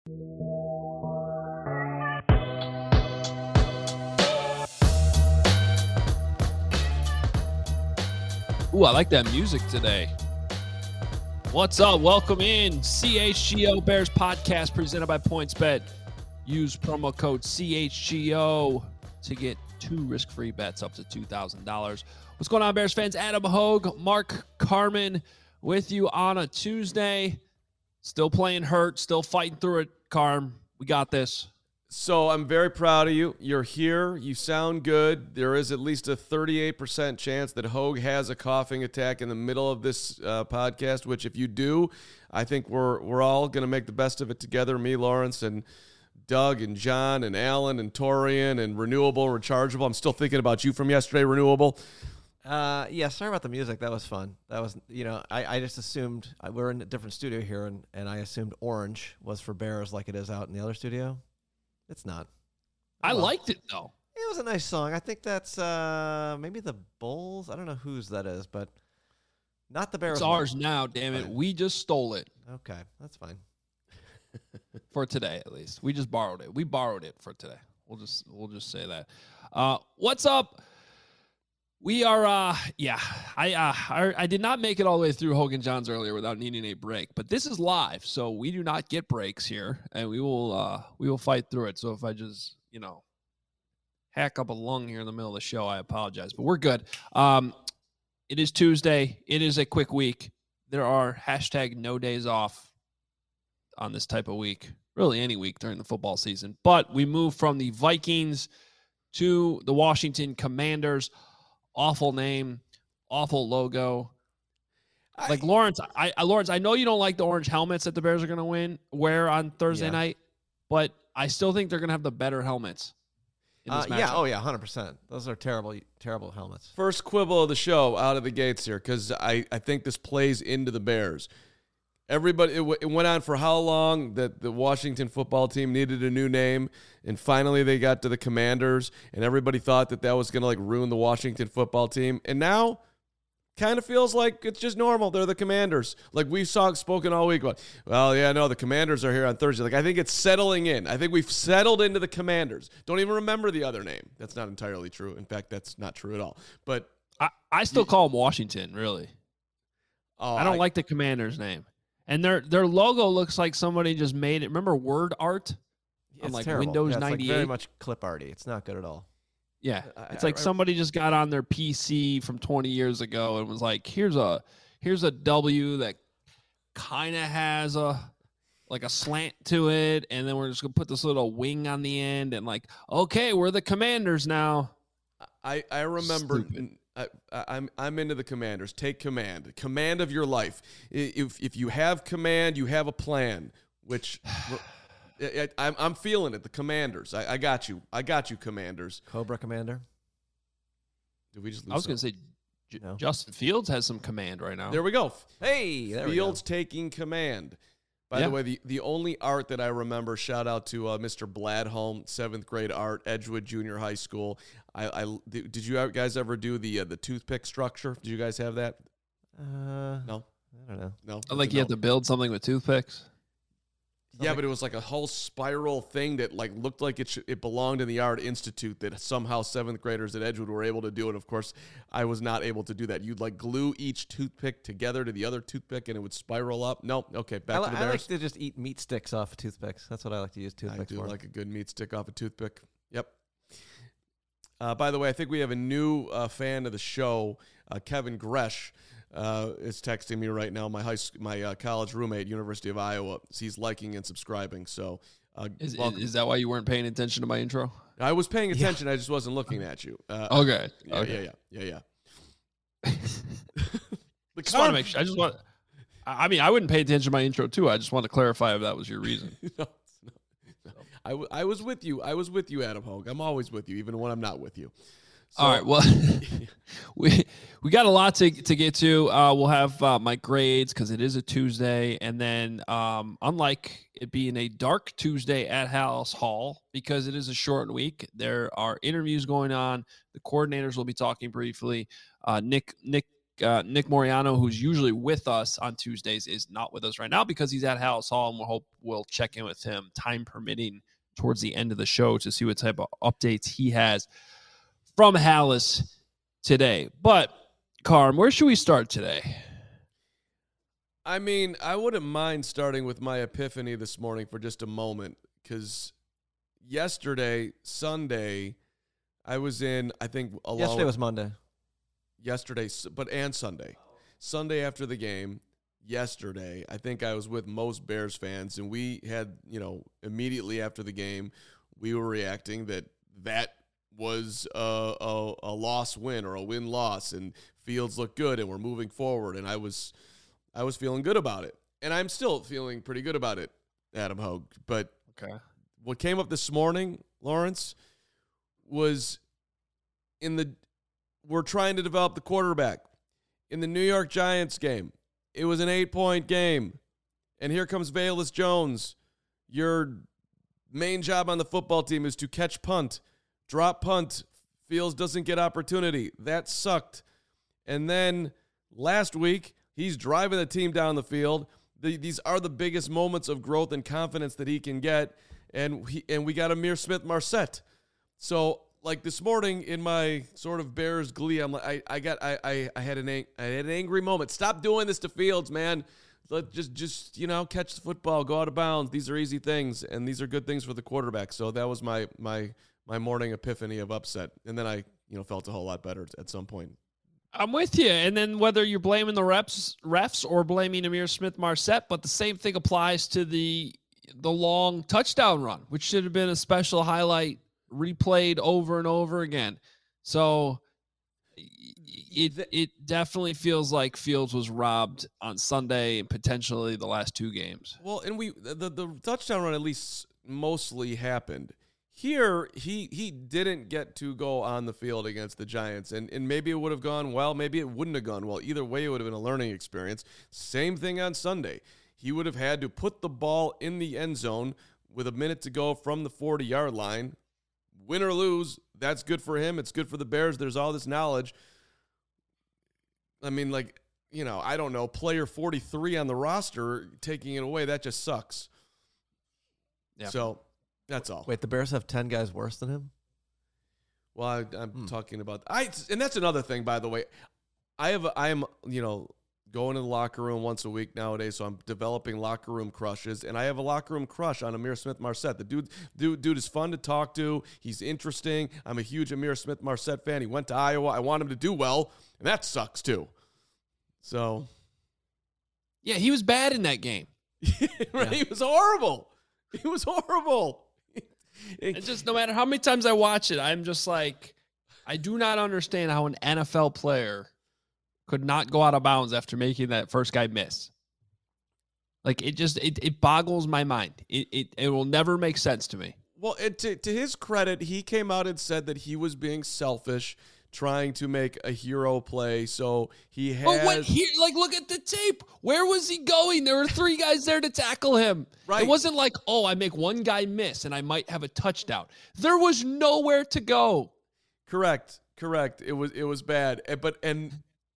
Ooh, I like that music today. What's up? Welcome in. CHGO Bears podcast presented by PointsBet. Use promo code CHGO to get 2 risk-free bets up to $2,000. What's going on, Bears fans? Adam Hogue, Mark Carman with you on a Tuesday. Still playing hurt, still fighting through it, Carm. We got this. So I'm very proud of you. You're here. You sound good. There is at least a 38% chance that Hogue has a coughing attack in the middle of this podcast, which if you do, I think we're all going to make the best of it together. Me, Lawrence, and Doug, and John, and Alan, and Torian, and Renewable, Rechargeable. I'm still thinking about you from yesterday, Renewable. Yeah, sorry about the music. That was fun. That was, I just assumed we're in a different studio here, and I assumed orange was for Bears like it is out in the other studio. It's not. I liked it, though. It was a nice song. I think that's maybe the Bulls. I don't know whose that is, but not the Bears. It's ours now, damn it. We just stole it. Okay, that's fine. For today, at least. We just borrowed it. We borrowed it for today. We'll just say that. What's up? We are, I did not make it all the way through Hogan Johns earlier without needing a break, but this is live, so we do not get breaks here, and we will fight through it. So if I just, hack up a lung here in the middle of the show, I apologize, but we're good. It is Tuesday. It is a quick week. There are #no days off on this type of week, really any week during the football season, but we move from the Vikings to the Washington Commanders. Awful name, awful logo. Like Lawrence, I know you don't like the orange helmets that the Bears are going to wear on Thursday night, but I still think they're going to have the better helmets. In this matchup. 100%. Those are terrible helmets. First quibble of the show out of the gates here, because I think this plays into the Bears. Everybody, it went on for how long that the Washington football team needed a new name, and finally they got to the Commanders, and everybody thought that was going to ruin the Washington football team, and now kind of feels like it's just normal. They're the Commanders. We've spoken all week about, the Commanders are here on Thursday. I think it's settling in. I think we've settled into the Commanders. Don't even remember the other name. That's not entirely true. In fact, that's not true at all. But I still call them Washington, really. I don't like the Commanders name. And their logo looks like somebody just made it. Remember word art on terrible. Windows it's 98? very much clip arty. It's not good at all. Yeah, it's somebody just got on their PC from 20 years ago and was like, here's a W that kind of has a slant to it, and then we're just gonna put this little wing on the end, and okay, we're the Commanders now. I remember. I'm into the Commanders. Take command of your life. If you have command, you have a plan. Which I'm feeling it. The Commanders. I got you. Commanders. Cobra Commander. Did we just lose? I was going to say No. Justin Fields has some command right now. There we go. Hey, there Fields taking command. By the way, the only art that I remember, shout out to Mr. Bladholm, 7th grade art, Edgewood Junior High School. Did you guys ever do the toothpick structure? Did you guys have that? No. I don't know. No. You have to build something with toothpicks? Yeah, but it was like a whole spiral thing that looked like it belonged in the Art Institute, that somehow 7th graders at Edgewood were able to do it. Of course, I was not able to do that. You'd glue each toothpick together to the other toothpick, and it would spiral up. No, okay, back to the Bears. I like to just eat meat sticks off of toothpicks. That's what I like to use toothpicks for. I do like a good meat stick off a toothpick. Yep. By the way, I think we have a new fan of the show, Kevin Gresh. Is texting me right now. My college roommate, University of Iowa. He's liking and subscribing. So, is that why you weren't paying attention to my intro? I was paying attention. I just wasn't looking at you. Okay. Yeah. Just want to make sure. I wouldn't pay attention to my intro too. I just want to clarify if that was your reason. No. I was with you. I was with you, Adam Hogue. I'm always with you, even when I'm not with you. So, all right. Well, we got a lot to get to. We'll have my grades because it is a Tuesday, and then unlike it being a dark Tuesday at House Hall, because it is a short week, there are interviews going on. The coordinators will be talking briefly. Nick Nick Moriano, who's usually with us on Tuesdays, is not with us right now because he's at Hallis Hall, and we'll check in with him, time permitting, towards the end of the show to see what type of updates he has from Hallis today. But, Carm, where should we start today? I mean, I wouldn't mind starting with my epiphany this morning for just a moment, because yesterday, Sunday, I was in, I think, Yesterday was Monday. Yesterday, and Sunday. Sunday after the game, yesterday, I think I was with most Bears fans, and we had, immediately after the game, we were reacting that was a loss-win or a win-loss, and Fields looked good, and we're moving forward, and I was feeling good about it, and I'm still feeling pretty good about it, Adam Hogue. But okay, what came up this morning, Lawrence, was we're trying to develop the quarterback. In the New York Giants game, it was an 8-point game, and here comes Velus Jones. Your main job on the football team is to catch punt, drop punt. Fields doesn't get opportunity. That sucked. And then last week, he's driving the team down the field. These are the biggest moments of growth and confidence that he can get. And we got Ihmir Smith-Marsette. So, like this morning in my sort of Bears glee, I'm like, I had an angry moment. Stop doing this to Fields, man. Just catch the football, go out of bounds. These are easy things, and these are good things for the quarterback. So that was my morning epiphany of upset. And then I felt a whole lot better at some point. I'm with you. And then whether you're blaming the refs or blaming Ihmir Smith-Marsette, but the same thing applies to the long touchdown run, which should have been a special highlight replayed over and over again. So it definitely feels like Fields was robbed on Sunday and potentially the last two games. Well, and the touchdown run at least mostly happened. Here, he didn't get to go on the field against the Giants, and maybe it would have gone well, maybe it wouldn't have gone well. Either way, it would have been a learning experience. Same thing on Sunday. He would have had to put the ball in the end zone with a minute to go from the 40-yard line. Win or lose, that's good for him. It's good for the Bears. There's all this knowledge. I mean, I don't know, player 43 on the roster taking it away, that just sucks. Yeah. So that's all. Wait, the Bears have 10 guys worse than him? Well, I'm talking about and that's another thing, by the way. I am going to the locker room once a week nowadays, so I'm developing locker room crushes, and I have a locker room crush on Ihmir Smith-Marsette. The dude is fun to talk to. He's interesting. I'm a huge Ihmir Smith-Marsette fan. He went to Iowa. I want him to do well, and that sucks too. So, yeah, he was bad in that game. Right? He was horrible. He was horrible. It's just no matter how many times I watch it, I'm just like, I do not understand how an NFL player could not go out of bounds after making that first guy miss. Like, it boggles my mind. It will never make sense to me. Well, to his credit, he came out and said that he was being selfish, trying to make a hero play. So he has. But look at the tape. Where was he going? There were three guys there to tackle him. Right. It wasn't like, I make one guy miss and I might have a touchdown. There was nowhere to go. Correct. It was bad. And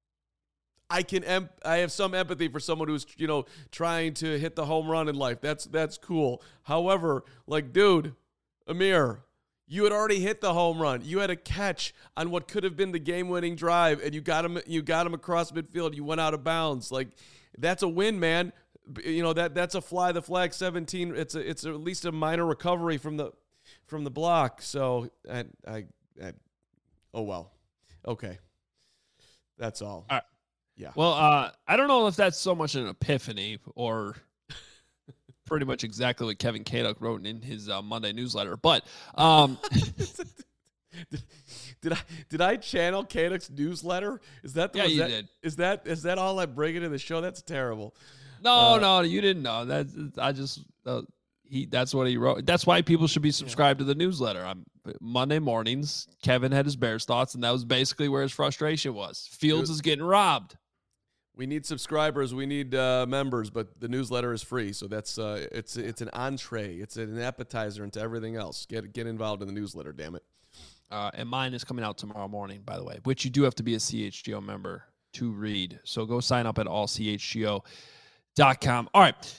I have some empathy for someone who's, trying to hit the home run in life. That's cool. However, dude, Ihmir, you had already hit the home run. You had a catch on what could have been the game-winning drive, and you got him across midfield. You went out of bounds. That's a win, man. That's a fly the flag 17. It's at least a minor recovery from the block. So oh well. Okay. That's all. All right. Yeah. Well, I don't know if that's so much an epiphany or pretty much exactly what Kevin Kaduk wrote in his Monday newsletter. But did I channel Kaduk's newsletter? Is that the yeah, one? you did. Is that all I bring into the show? That's terrible. No, you didn't know. That's what he wrote. That's why people should be subscribed to the newsletter. Monday mornings, Kevin had his Bears thoughts, and that was basically where his frustration was. Fields is getting robbed. We need subscribers. We need members, but the newsletter is free, so that's it's an entree. It's an appetizer into everything else. Get involved in the newsletter, damn it. And mine is coming out tomorrow morning, by the way, which you do have to be a CHGO member to read. So go sign up at allchgo.com. All right.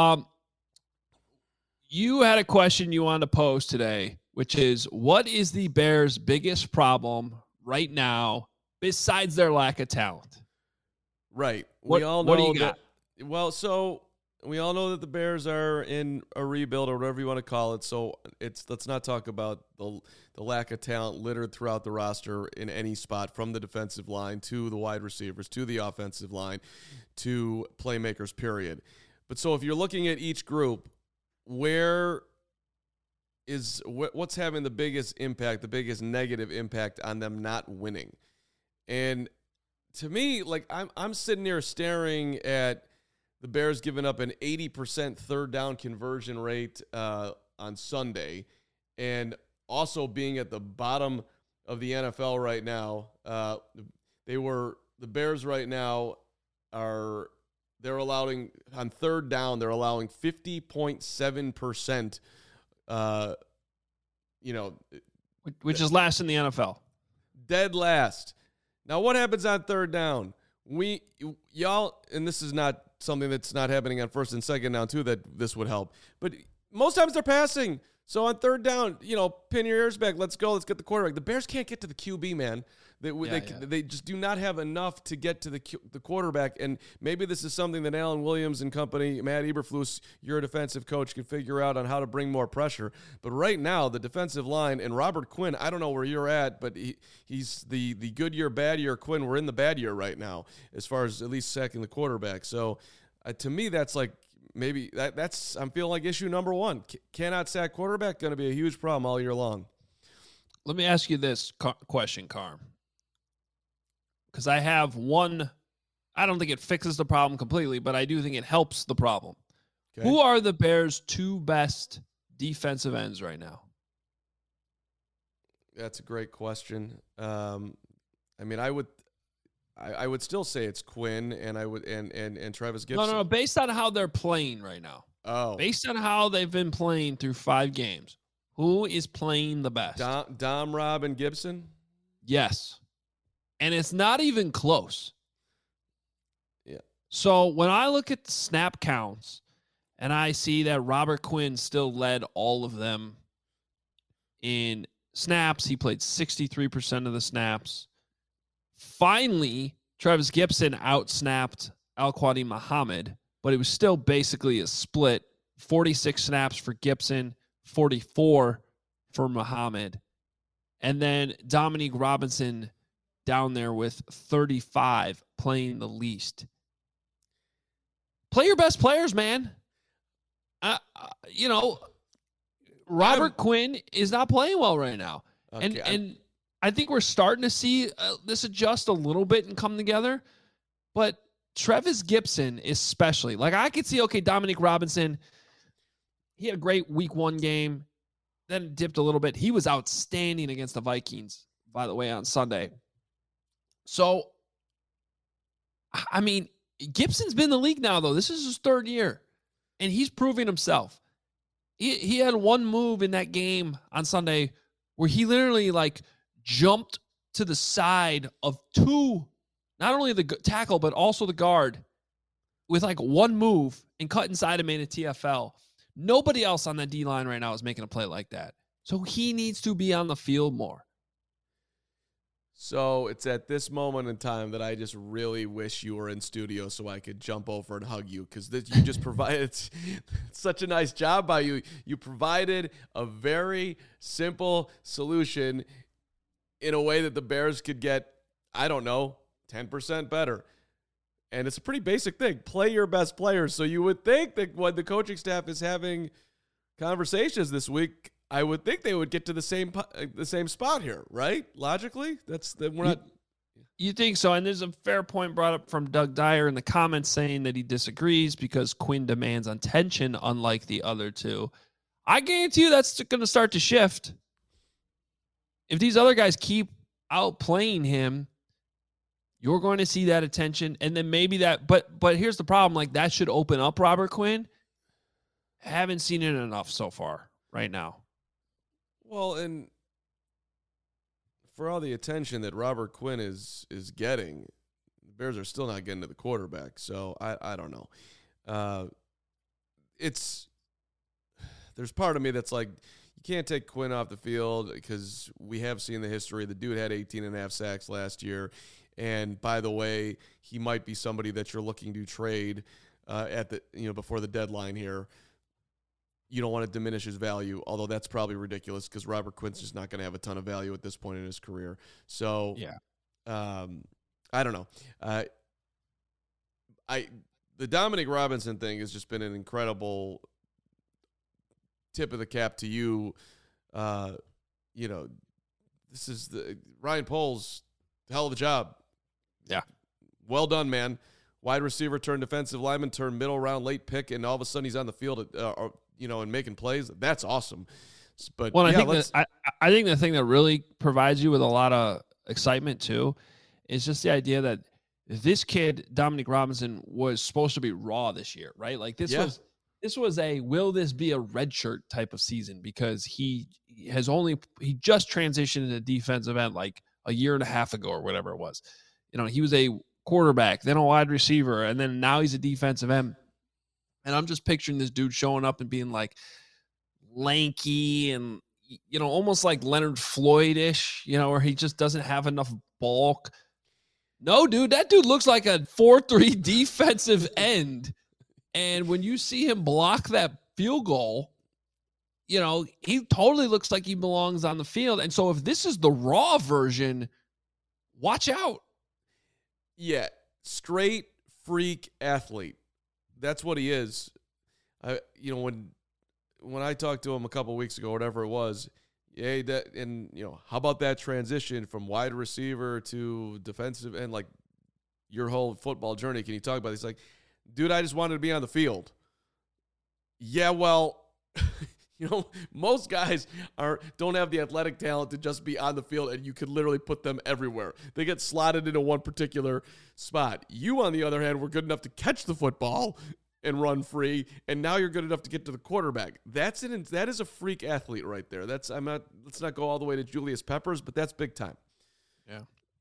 You had a question you wanted to pose today, which is, what is the Bears' biggest problem right now besides their lack of talent? Right. What do you got? So we all know that the Bears are in a rebuild or whatever you want to call it. So let's not talk about the lack of talent littered throughout the roster in any spot, from the defensive line to the wide receivers to the offensive line to playmakers, period. But so if you're looking at each group, what's having the biggest impact, the biggest negative impact on them not winning? And to me, like, I'm sitting here staring at the Bears giving up an 80% third down conversion rate on Sunday, and also being at the bottom of the NFL right now. The Bears right now they're allowing on third down, they're allowing 50.7%, which is last in the NFL. Dead last. Now, what happens on third down? Y'all, and this is not something that's not happening on first and second down too, that this would help, but most times they're passing. So on third down, pin your ears back. Let's go. Let's get the quarterback. The Bears can't get to the QB, man. They just do not have enough to get to the quarterback. And maybe this is something that Alan Williams and company, Matt Eberflus, your defensive coach, can figure out on how to bring more pressure. But right now, the defensive line and Robert Quinn, I don't know where you're at, but he's the good year, bad year Quinn. We're in the bad year right now as far as at least sacking the quarterback. So to me, that's like, maybe that's I'm feeling like issue number one. Cannot sack quarterback, going to be a huge problem all year long. Let me ask you this question, Carm. Because I have one, I don't think it fixes the problem completely, but I do think it helps the problem. Okay. Who are the Bears' two best defensive ends right now? That's a great question. I would still say it's Quinn, and I would and Travis Gibson. No. Based on how they're playing right now. Oh. Based on how they've been playing through 5 games, who is playing the best? Dom, Rob, and Gibson? Yes. And it's not even close. Yeah. So when I look at the snap counts and I see that Robert Quinn still led all of them in snaps, he played 63% of the snaps. Finally, Travis Gibson outsnapped Al-Quadin Muhammad, but it was still basically a split. 46 snaps for Gibson, 44 for Muhammad. And then Dominique Robinson down there with 35, playing the least. Play your best players, man. Robert Quinn is not playing well right now. Okay, and I think we're starting to see this adjust a little bit and come together. But Travis Gibson especially. Like, I could see, Dominique Robinson, he had a great week 1 game, then dipped a little bit. He was outstanding against the Vikings, by the way, on Sunday. So, I mean, Gibson's been in the league now, though. This is his 3rd year, and he's proving himself. He had one move in that game on Sunday where he literally, jumped to the side of 2, not only the tackle, but also the guard, with, one move and cut inside and made a TFL. Nobody else on that D-line right now is making a play like that. So he needs to be on the field more. So it's at this moment in time that I just really wish you were in studio so I could jump over and hug you, because you just provided such a nice job by you. You provided a very simple solution in a way that the Bears could get, 10% better. And it's a pretty basic thing. Play your best players. So you would think that when the coaching staff is having conversations this week, I would think they would get to the same spot here, right? Logically, You think so? And there's a fair point brought up from Doug Dyer in the comments saying that he disagrees because Quinn demands attention, unlike the other two. I guarantee you that's going to start to shift. If these other guys keep outplaying him, you're going to see that attention, and then maybe that. But here's the problem: that should open up Robert Quinn. Haven't seen it enough so far right now. Well, and for all the attention that Robert Quinn is getting, Bears are still not getting to the quarterback. So I don't know. There's part of me that's like, you can't take Quinn off the field because we have seen the history. The dude had 18.5 sacks last year. And by the way, he might be somebody that you're looking to trade before the deadline here. You don't want to diminish his value, although that's probably ridiculous because Robert Quinn's just not going to have a ton of value at this point in his career. So, yeah, I don't know. The Dominic Robinson thing has just been an incredible tip of the cap to you. This is Ryan Poles, hell of a job. Yeah. Well done, man. Wide receiver turned defensive lineman turned middle round late pick, and all of a sudden he's on the field, and making plays. That's awesome. But well, I think the thing that really provides you with a lot of excitement too is just the idea that this kid, Dominic Robinson, was supposed to be raw this year, right? Like this was a will this be a redshirt type of season because he just transitioned into defensive end like a year and a half ago or whatever it was. He was a quarterback, then a wide receiver, and then now he's a defensive end. And I'm just picturing this dude showing up and being like lanky and, almost like Leonard Floyd-ish, where he just doesn't have enough bulk. No, dude, that dude looks like a 4-3 defensive end. And when you see him block that field goal, he totally looks like he belongs on the field. And so if this is the raw version, watch out. Yeah, straight freak athlete. That's what he is. When I talked to him a couple of weeks ago, whatever it was, how about that transition from wide receiver to defensive end, like your whole football journey? Can you talk about it? He's like, dude, I just wanted to be on the field. Yeah, well, most guys don't have the athletic talent to just be on the field, and you could literally put them everywhere. They get slotted into one particular spot. You, on the other hand, were good enough to catch the football and run free, and now you're good enough to get to the quarterback. That is a freak athlete right there. Let's not go all the way to Julius Peppers, but that's big time. Yeah.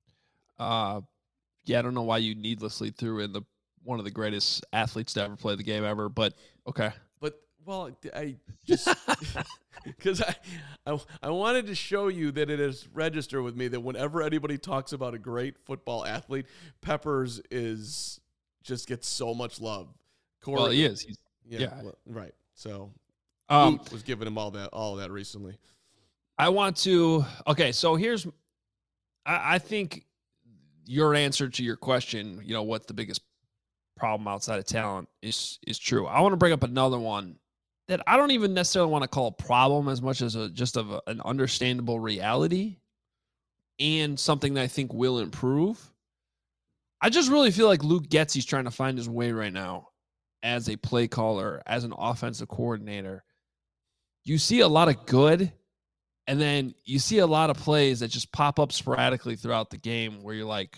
I don't know why you needlessly threw in one of the greatest athletes to ever play the game ever, but okay. Well, I just because I wanted to show you that it is registered with me that whenever anybody talks about a great football athlete, Peppers just gets so much love. Corey, well, he is. Well, right. So was giving him all that recently. I want to. Okay, so here's. I think your answer to your question. What's the biggest problem outside of talent is true. I want to bring up another one that I don't even necessarily want to call a problem as much as an understandable reality and something that I think will improve. I just really feel like Luke Getsy's trying to find his way right now as a play caller, as an offensive coordinator. You see a lot of good, and then you see a lot of plays that just pop up sporadically throughout the game where you're like,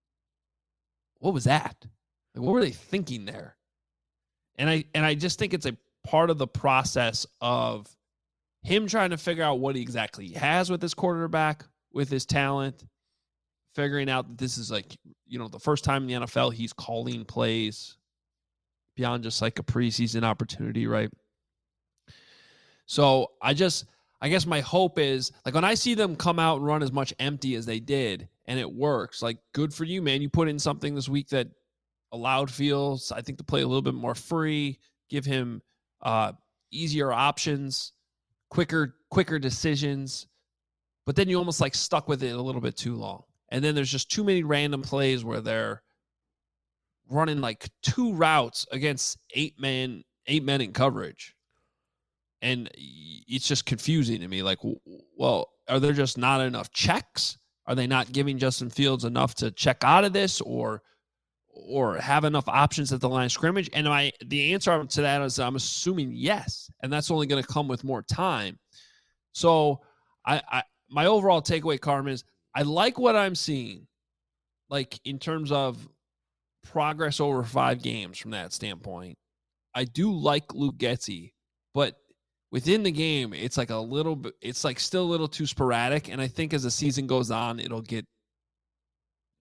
what was that? Like, what were they thinking there? And I just think it's a part of the process of him trying to figure out what he exactly has with his quarterback, with his talent, figuring out that this is like, the first time in the NFL he's calling plays beyond just like a preseason opportunity, right? So I guess my hope is, like, when I see them come out and run as much empty as they did and it works, like, good for you, man. You put in something this week that allowed Fields, I think, to play a little bit more free, give him easier options, quicker decisions. But then you almost like stuck with it a little bit too long. And then there's just too many random plays where they're running like 2 routes against 8 men in coverage. And it's just confusing to me. Like, well, are there just not enough checks? Are they not giving Justin Fields enough to check out of this or have enough options at the line of scrimmage? And the answer to that is I'm assuming yes. And that's only going to come with more time. So my overall takeaway, Carmen, is I like what I'm seeing, like in terms of progress over 5 games from that standpoint. I do like Luke Getsy, but within the game, it's like it's like still a little too sporadic. And I think as the season goes on, it'll get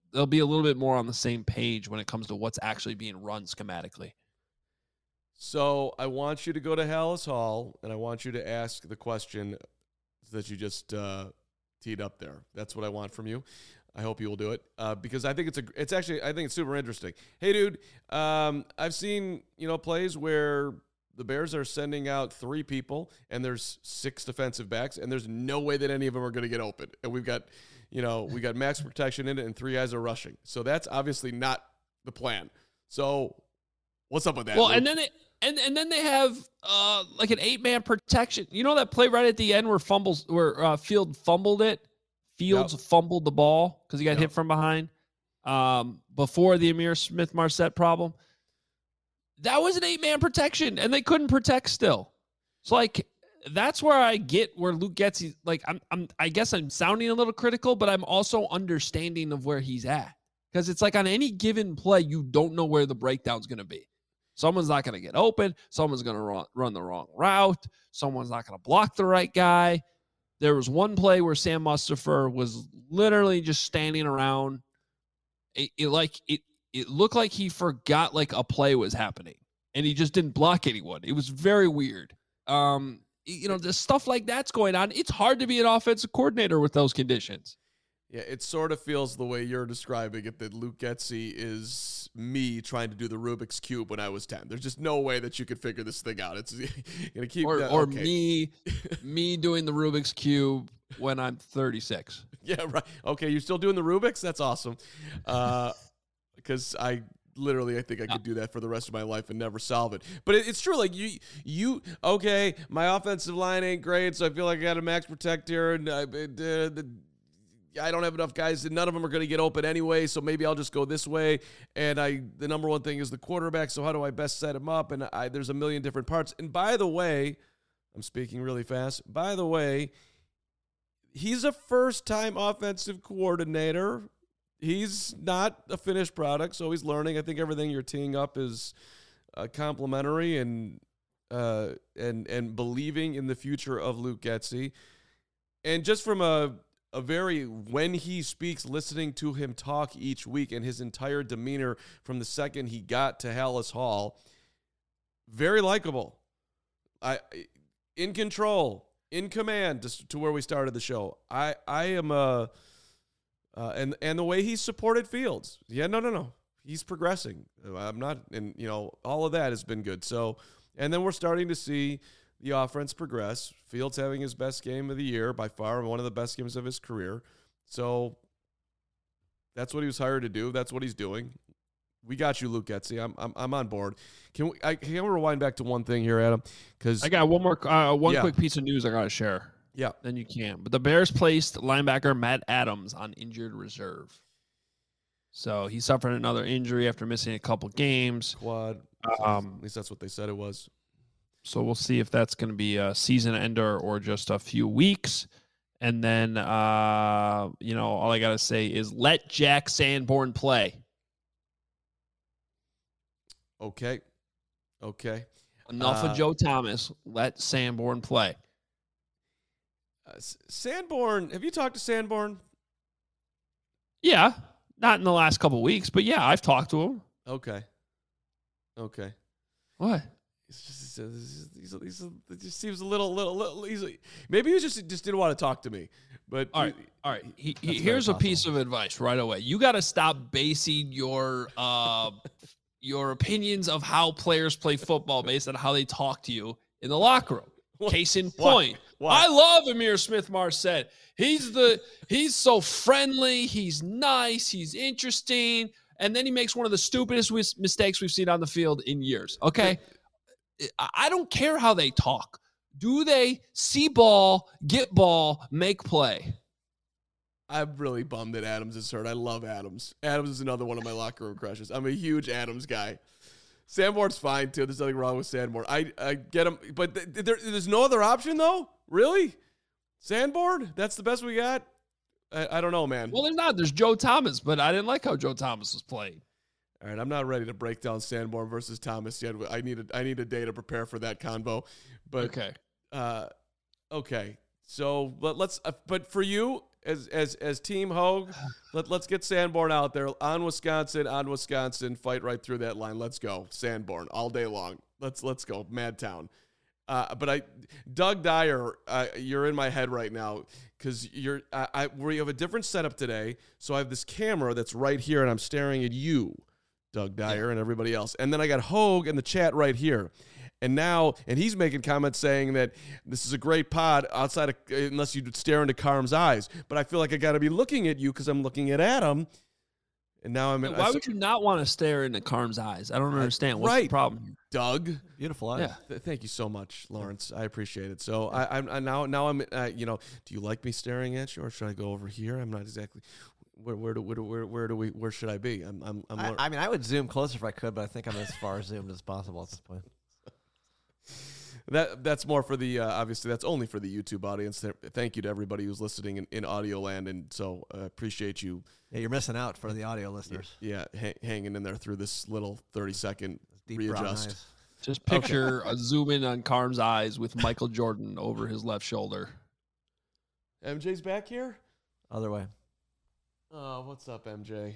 they'll be a little bit more on the same page when it comes to what's actually being run schematically. So I want you to go to Hallis Hall, and I want you to ask the question that you just teed up there. That's what I want from you. I hope you will do it because I think I think it's super interesting. Hey, dude, I've seen plays where the Bears are sending out 3 people, and there's 6 defensive backs, and there's no way that any of them are going to get open. And we got max protection in it, and 3 guys are rushing. So that's obviously not the plan. So what's up with that? Well, Luke? and then they have like an 8-man protection. You know that play right at the end where Fields fumbled it. Fields fumbled the ball because he got hit from behind before the Ihmir Smith-Marsette problem. That was an 8-man protection, and they couldn't protect still. So, like, that's where I get where Luke Getsy, like, I guess I'm sounding a little critical, but I'm also understanding of where he's at. Because it's like on any given play, you don't know where the breakdown's going to be. Someone's not going to get open. Someone's going to run the wrong route. Someone's not going to block the right guy. There was one play where Sam Mustipher was literally just standing around. It looked like he forgot like a play was happening, and he just didn't block anyone. It was very weird. The stuff like that's going on. It's hard to be an offensive coordinator with those conditions. Yeah, it sort of feels the way you're describing it, that Luke Getsy is me trying to do the Rubik's Cube when I was 10. There's just no way that you could figure this thing out. It's gonna keep me doing the Rubik's Cube when I'm 36. Yeah, right. Okay, you're still doing the Rubik's? That's awesome. Because I think I could do that for the rest of my life and never solve it. But it's true. Like you okay, my offensive line ain't great, so I feel like I got a max protect here, and I don't have enough guys, and none of them are going to get open anyway, so maybe I'll just go this way. And the number one thing is the quarterback, so how do I best set him up? And there's a million different parts. And by the way, I'm speaking really fast. By the way, he's a first-time offensive coordinator. He's not a finished product, so he's learning. I think everything you're teeing up is complimentary and believing in the future of Luke Getsy. And just from when he speaks, listening to him talk each week and his entire demeanor from the second he got to Hallis Hall, very likable. In control, in command, to where we started the show. I am and the way he supported Fields. Yeah, no. He's progressing. I'm not, and all of that has been good. So, and then we're starting to see the offense progress. Fields having his best game of the year, by far one of the best games of his career. So that's what he was hired to do. That's what he's doing. We got you, Luke Getsy. I'm on board. Can we rewind back to one thing here, Adam? Because I got one more quick piece of news I got to share. Yeah, then you can. But the Bears placed linebacker Matt Adams on injured reserve. So he suffered another injury after missing a couple games. Quad. At least that's what they said it was. So we'll see if that's going to be a season ender or just a few weeks. And then, all I got to say is let Jack Sanborn play. Okay. Enough of Joe Thomas. Let Sanborn play. Sanborn, have you talked to Sanborn? Yeah. Not in the last couple of weeks, but yeah, I've talked to him. Okay. What? He just seems a little maybe he just didn't want to talk to me. But all right. Here's a piece of advice right away. You got to stop basing your opinions of how players play football based on how they talk to you in the locker room. Case in point. Why? I love Ihmir Smith-Marsette. He's so friendly. He's nice. He's interesting. And then he makes one of the stupidest mistakes we've seen on the field in years. Okay. I don't care how they talk. Do they see ball, get ball, make play? I'm really bummed that Adams is hurt. I love Adams. Adams is another one of my locker room crushes. I'm a huge Adams guy. Sanborn's fine, too. There's nothing wrong with Sanborn. I get him. But there's no other option, though? Really? Sanborn? That's the best we got? I don't know, man. Well, there's not. There's Joe Thomas, but I didn't like how Joe Thomas was playing. All right, I'm not ready to break down Sanborn versus Thomas yet. I need a day to prepare for that convo. But okay. Okay. So let's. But for you, as Team Hogue, let's get Sanborn out there on Wisconsin, fight right through that line. Let's go, Sanborn, all day long. Let's go, Madtown. But Doug Dyer, you're in my head right now because we have a different setup today. So I have this camera that's right here, and I'm staring at you, Doug Dyer, and everybody else. And then I got Hogue in the chat right here. And he's making comments saying that this is a great pod outside of, unless you stare into Carm's eyes. But I feel like I got to be looking at you because I'm looking at Adam. And now I'm in. Why would you not want to stare into Carm's eyes? I don't understand. What's the problem here? Doug? Beautiful eyes. Yeah. Thank you so much, Lawrence. I appreciate it. So I'm do you like me staring at you, or should I go over here? I'm not exactly. Where should I be? I mean, I would zoom closer if I could, but I think I'm as far zoomed as possible at this point. That's more for the obviously that's only for the YouTube audience. Thank you to everybody who's listening in audio land, and so appreciate you. Yeah, you're missing out for the audio listeners. Yeah, hanging in there through this little 30-second Deep brown readjust. eyes. Just picture a zoom in on Carm's eyes with Michael Jordan over his left shoulder. MJ's back here? Other way. Oh, what's up, MJ?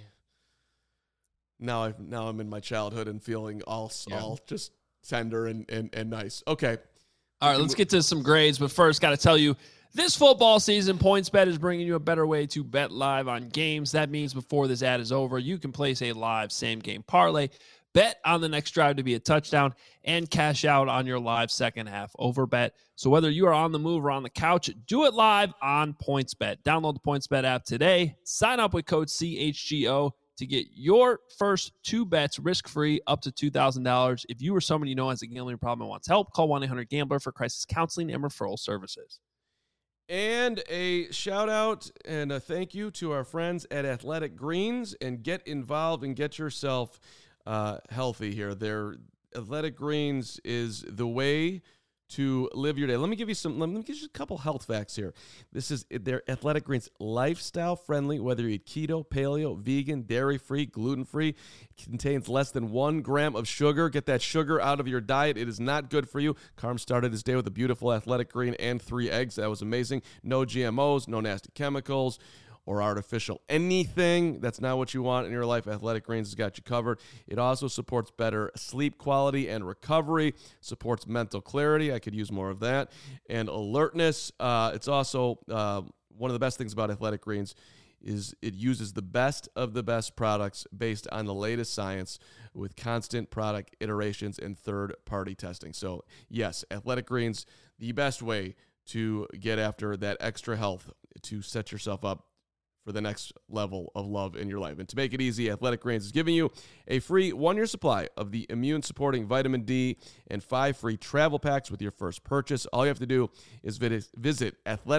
Now I'm in my childhood and feeling all just tender and nice. Okay. All right, let's get to some grades. But first, got to tell you, this football season, PointsBet is bringing you a better way to bet live on games. That means before this ad is over, you can place a live same-game parlay, bet on the next drive to be a touchdown, and cash out on your live second-half over bet. So whether you are on the move or on the couch, do it live on PointsBet. Download the PointsBet app today. Sign up with code CHGO to get your first 2 bets risk-free up to $2,000. If you or someone you know has a gambling problem and wants help, call 1-800-GAMBLER for crisis counseling and referral services. And a shout out and a thank you to our friends at Athletic Greens, and get involved and get yourself healthy here. Their Athletic Greens is the way to live your day. Let me give you a couple health facts here. This is their Athletic Greens, lifestyle friendly, whether you eat keto, paleo, vegan, dairy free, gluten free. It contains less than 1 gram of sugar. Get that sugar out of your diet. It is not good for you. Carm started his day with a beautiful Athletic Green and 3 eggs. That was amazing. No GMOs, no nasty chemicals or artificial anything. That's not what you want in your life. Athletic Greens has got you covered. It also supports better sleep quality and recovery, supports mental clarity. I could use more of that. And alertness. It's also one of the best things about Athletic Greens is it uses the best of the best products based on the latest science with constant product iterations and third-party testing. So, yes, Athletic Greens, the best way to get after that extra health, to set yourself up for the next level of love in your life. And to make it easy, Athletic Greens is giving you a free 1-year supply of the immune-supporting vitamin D and 5 free travel packs with your first purchase. All you have to do is visit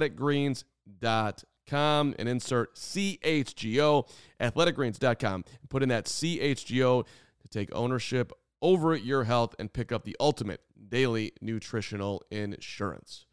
athleticgreens.com and insert CHGO, athleticgreens.com, and put in that CHGO to take ownership over your health and pick up the ultimate daily nutritional insurance.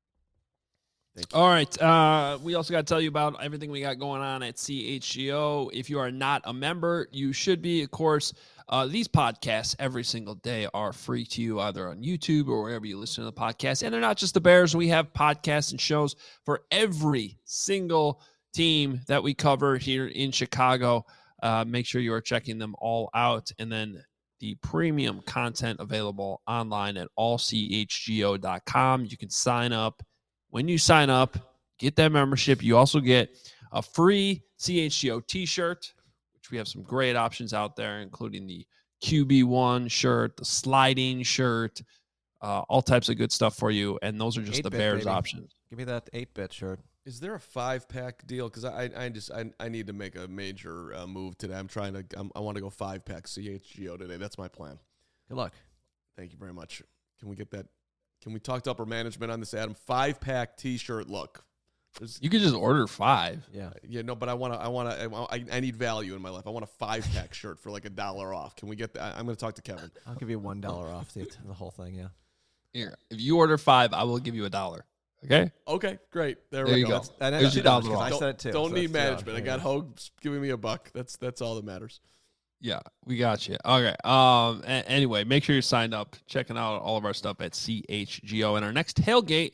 All right. We also got to tell you about everything we got going on at CHGO. If you are not a member, you should be. Of course, these podcasts every single day are free to you either on YouTube or wherever you listen to the podcast. And they're not just the Bears. We have podcasts and shows for every single team that we cover here in Chicago. Make sure you are checking them all out. And then the premium content available online at allchgo.com. You can sign up. When you sign up, get that membership. You also get a free CHGO t-shirt, which we have some great options out there, including the QB1 shirt, the sliding shirt, all types of good stuff for you. And those are just the Bears options. Give me that 8-bit shirt. Is there a 5-pack deal? Because I need to make a major move today. I want to go 5-pack CHGO today. That's my plan. Good luck. Thank you very much. Can we get that? Can we talk to upper management on this, Adam? 5-pack T-shirt look. You could just order 5. Yeah. No, but I need value in my life. I want a 5-pack shirt for like $1 off. Can we get that? I'm going to talk to Kevin. I'll give you $1 off the whole thing. Yeah. Here, if you order 5, I will give you $1. Okay. Okay. Great. There you we go. There's your $2 $1 I said it too. Don't so need that's management. I got Hogue giving me $1. That's all that matters. Yeah, we got you. Okay. Anyway, make sure you're signed up, checking out all of our stuff at CHGO. And our next tailgate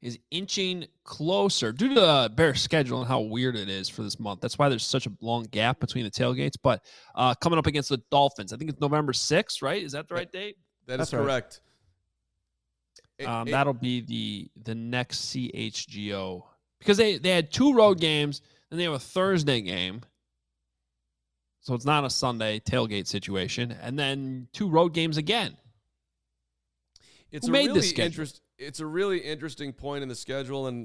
is inching closer due to the Bears' schedule and how weird it is for this month. That's why there's such a long gap between the tailgates. But coming up against the Dolphins, I think it's November 6th, right? Is that the right date? That's correct. Right. That'll be the next CHGO, because they had 2 road games, and they have a Thursday game. So it's not a Sunday tailgate situation, and then 2 road games again. It's a really interesting point in the schedule, and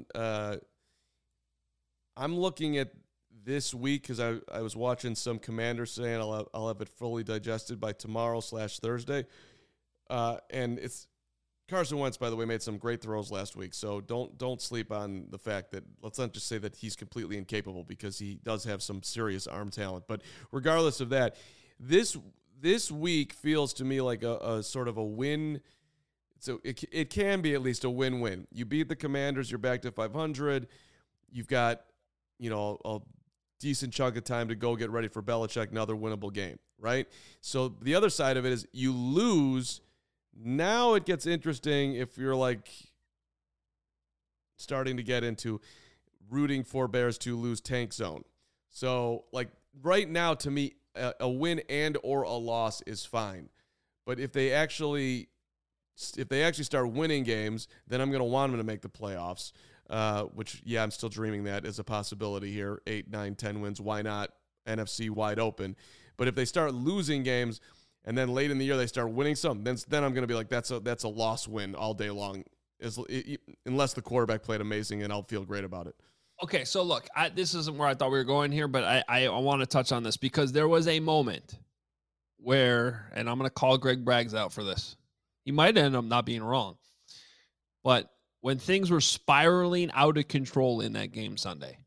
I'm looking at this week because I was watching some Commanders saying I'll have it fully digested by tomorrow/Thursday, and it's Carson Wentz, by the way, made some great throws last week, so don't sleep on the fact that, let's not just say that he's completely incapable, because he does have some serious arm talent. But regardless of that, this week feels to me like a sort of a win. So it can be at least a win-win. You beat the Commanders, you're back to 500. You've got, a decent chunk of time to go get ready for Belichick, another winnable game, right? So the other side of it is you lose. Now it gets interesting if you're like starting to get into rooting for Bears to lose tank zone. So like right now, to me, a win and or a loss is fine. But if they actually start winning games, then I'm going to want them to make the playoffs, which, yeah, I'm still dreaming that as a possibility here. 8, 9, 10 wins. Why not? NFC wide open. But if they start losing games and then late in the year they start winning some, then I'm going to be like, that's a loss win all day long, unless the quarterback played amazing, and I'll feel great about it. Okay, so look, this isn't where I thought we were going here, but I want to touch on this because there was a moment where, and I'm going to call Greg Braggs out for this. He might end up not being wrong. But when things were spiraling out of control in that game Sunday,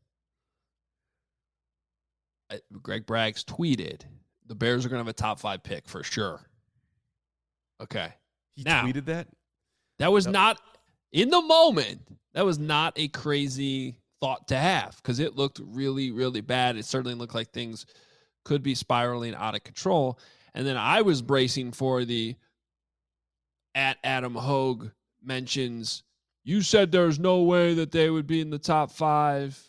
Greg Braggs tweeted, the Bears are going to have a top 5 pick for sure. Okay. He tweeted that? That was not, in the moment, that was not a crazy thought to have, because it looked really, really bad. It certainly looked like things could be spiraling out of control. And then I was bracing for the at Adam Hogue mentions, you said there's no way that they would be in the top 5,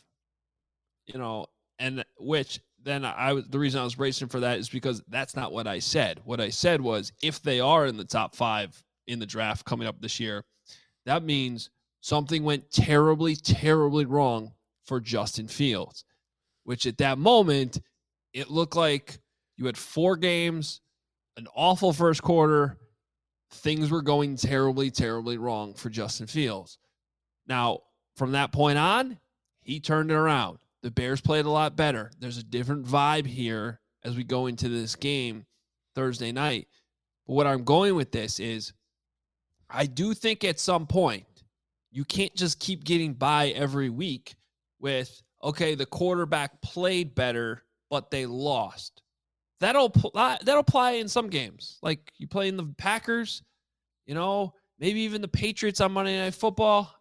and which then the reason I was bracing for that is because that's not what I said. What I said was, if they are in the top 5 in the draft coming up this year, that means something went terribly, terribly wrong for Justin Fields, which at that moment, it looked like you had 4 games, an awful first quarter. Things were going terribly, terribly wrong for Justin Fields. Now, from that point on, he turned it around. The Bears played a lot better. There's a different vibe here as we go into this game Thursday night. But what I'm going with this is, I do think at some point, you can't just keep getting by every week with, okay, the quarterback played better, but they lost. That'll apply in some games. Like you play in the Packers, maybe even the Patriots on Monday Night Football.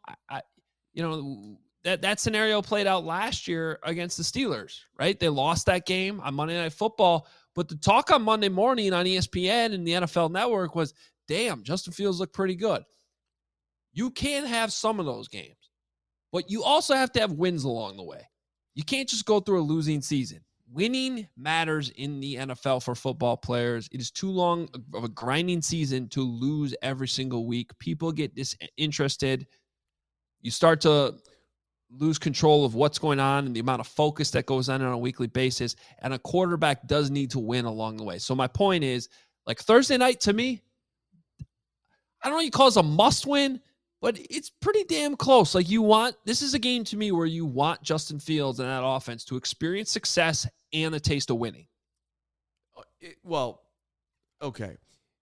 That scenario played out last year against the Steelers, right? They lost that game on Monday Night Football, but the talk on Monday morning on ESPN and the NFL Network was, damn, Justin Fields looked pretty good. You can have some of those games, but you also have to have wins along the way. You can't just go through a losing season. Winning matters in the NFL for football players. It is too long of a grinding season to lose every single week. People get disinterested. You start to lose control of what's going on and the amount of focus that goes on a weekly basis. And a quarterback does need to win along the way. So my point is, like Thursday night to me, I don't know what you call it a must win, but it's pretty damn close. Like this is a game to me where you want Justin Fields and that offense to experience success and the taste of winning. Well, okay.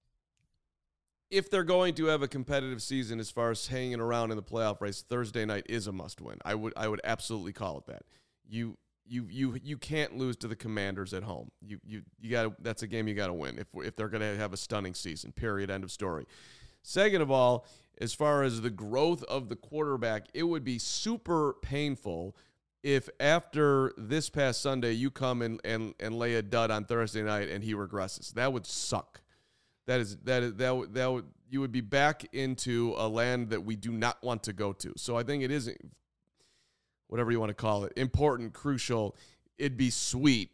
If they're going to have a competitive season as far as hanging around in the playoff race, Thursday night is a must win. I would absolutely call it that. You can't lose to the Commanders at home. You got that's a game you got to win if they're going to have a stunning season. Period. End of story. Second of all, as far as the growth of the quarterback, it would be super painful if after this past Sunday you come and lay a dud on Thursday night and he regresses. That would suck. That would you would be back into a land that we do not want to go to. So I think it is, whatever you want to call it, important, crucial. It'd be sweet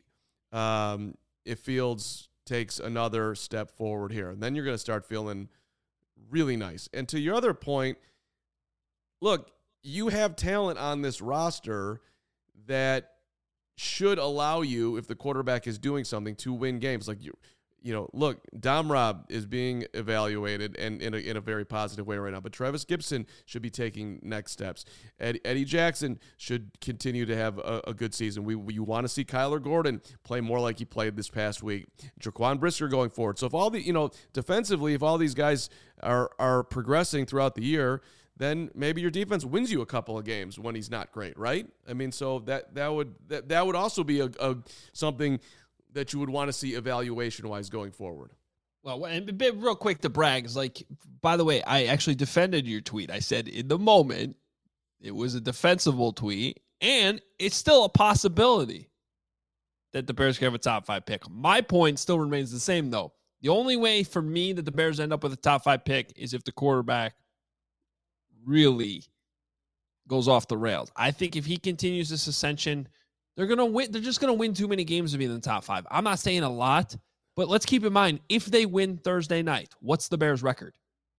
if Fields takes another step forward here. And then you're going to start feeling really nice. And to your other point, look, you have talent on this roster that should allow you, if the quarterback is doing something, to win games. Like, look, Dom Rob is being evaluated and in a very positive way right now. But Travis Gibson should be taking next steps. Eddie Jackson should continue to have a good season. You want to see Kyler Gordon play more like he played this past week. Jaquan Brisker going forward. So if all the, defensively, if all these guys are progressing throughout the year, then maybe your defense wins you a couple of games when he's not great, right? I mean, so that would also be a something that you would want to see evaluation-wise going forward. Well, and real quick to brag, is like, by the way, I actually defended your tweet. I said in the moment it was a defensible tweet, and it's still a possibility that the Bears can have a top 5 pick. My point still remains the same, though. The only way for me that the Bears end up with a top 5 pick is if the quarterback really goes off the rails. I think if he continues this ascension, they're going to win. They're just going to win too many games to be in the top 5. I'm not saying a lot, but let's keep in mind, if they win Thursday night, what's the Bears' record?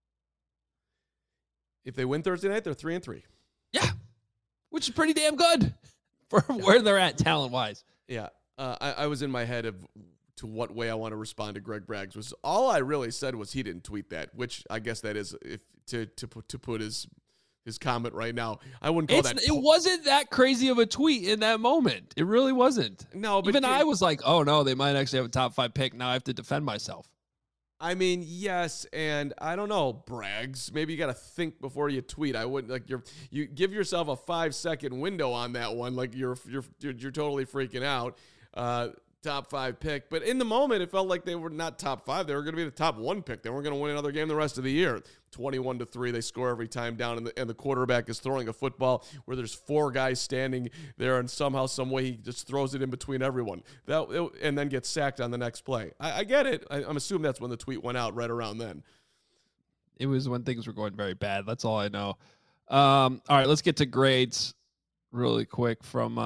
If they win Thursday night, they're 3-3. Yeah, which is pretty damn good for where they're at talent-wise. Yeah, I was in my head of to what way I want to respond to Greg Braggs. Was all I really said was he didn't tweet that, which I guess that is if to put his comment right now. I wouldn't call that. It wasn't that crazy of a tweet in that moment. It really wasn't. No, but even I was like, oh no, they might actually have a top 5 pick. Now I have to defend myself. I mean, yes, and I don't know, Braggs. Maybe you got to think before you tweet. I wouldn't like you give yourself a 5-second window on that one. Like you're totally freaking out. Top 5 pick, but in the moment it felt like they were not top 5. They were going to be the top 1 pick. They weren't going to win another game the rest of the year. 21-3, they score every time down, and the quarterback is throwing a football where there's 4 guys standing there, and somehow, some way, he just throws it in between everyone. And then gets sacked on the next play. I get it. I'm assuming that's when the tweet went out, right around then. It was when things were going very bad. That's all I know. All right, let's get to grades really quick from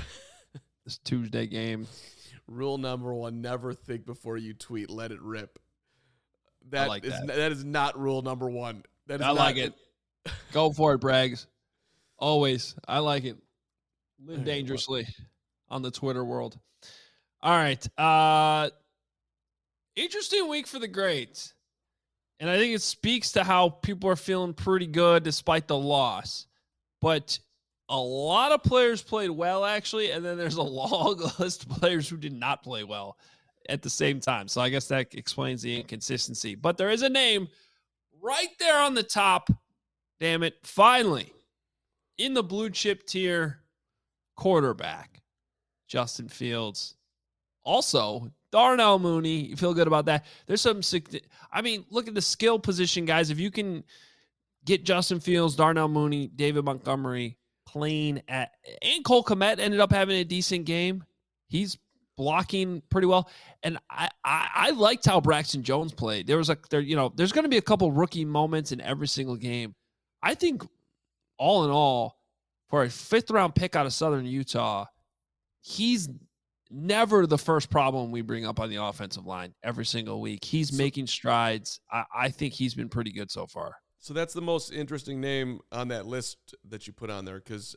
this Tuesday game. Rule number 1, never think before you tweet. Let it rip. That is not rule number 1. Like it. Go for it, Braggs. Always. I like it. Live dangerously on the Twitter world. All right. Interesting week for the grades. And I think it speaks to how people are feeling pretty good despite the loss. But a lot of players played well, actually, and then there's a long list of players who did not play well at the same time. So I guess that explains the inconsistency. But there is a name right there on the top, damn it, finally, in the blue chip tier, quarterback, Justin Fields. Also, Darnell Mooney, you feel good about that. There's some, look at the skill position, guys. If you can get Justin Fields, Darnell Mooney, David Montgomery, playing and Cole Kmet ended up having a decent game. He's blocking pretty well. And I liked how Braxton Jones played. There's going to be a couple rookie moments in every single game. I think all in all, for a 5th round pick out of Southern Utah, he's never the first problem we bring up on the offensive line every single week. He's making strides. I think he's been pretty good so far. So that's the most interesting name on that list that you put on there because,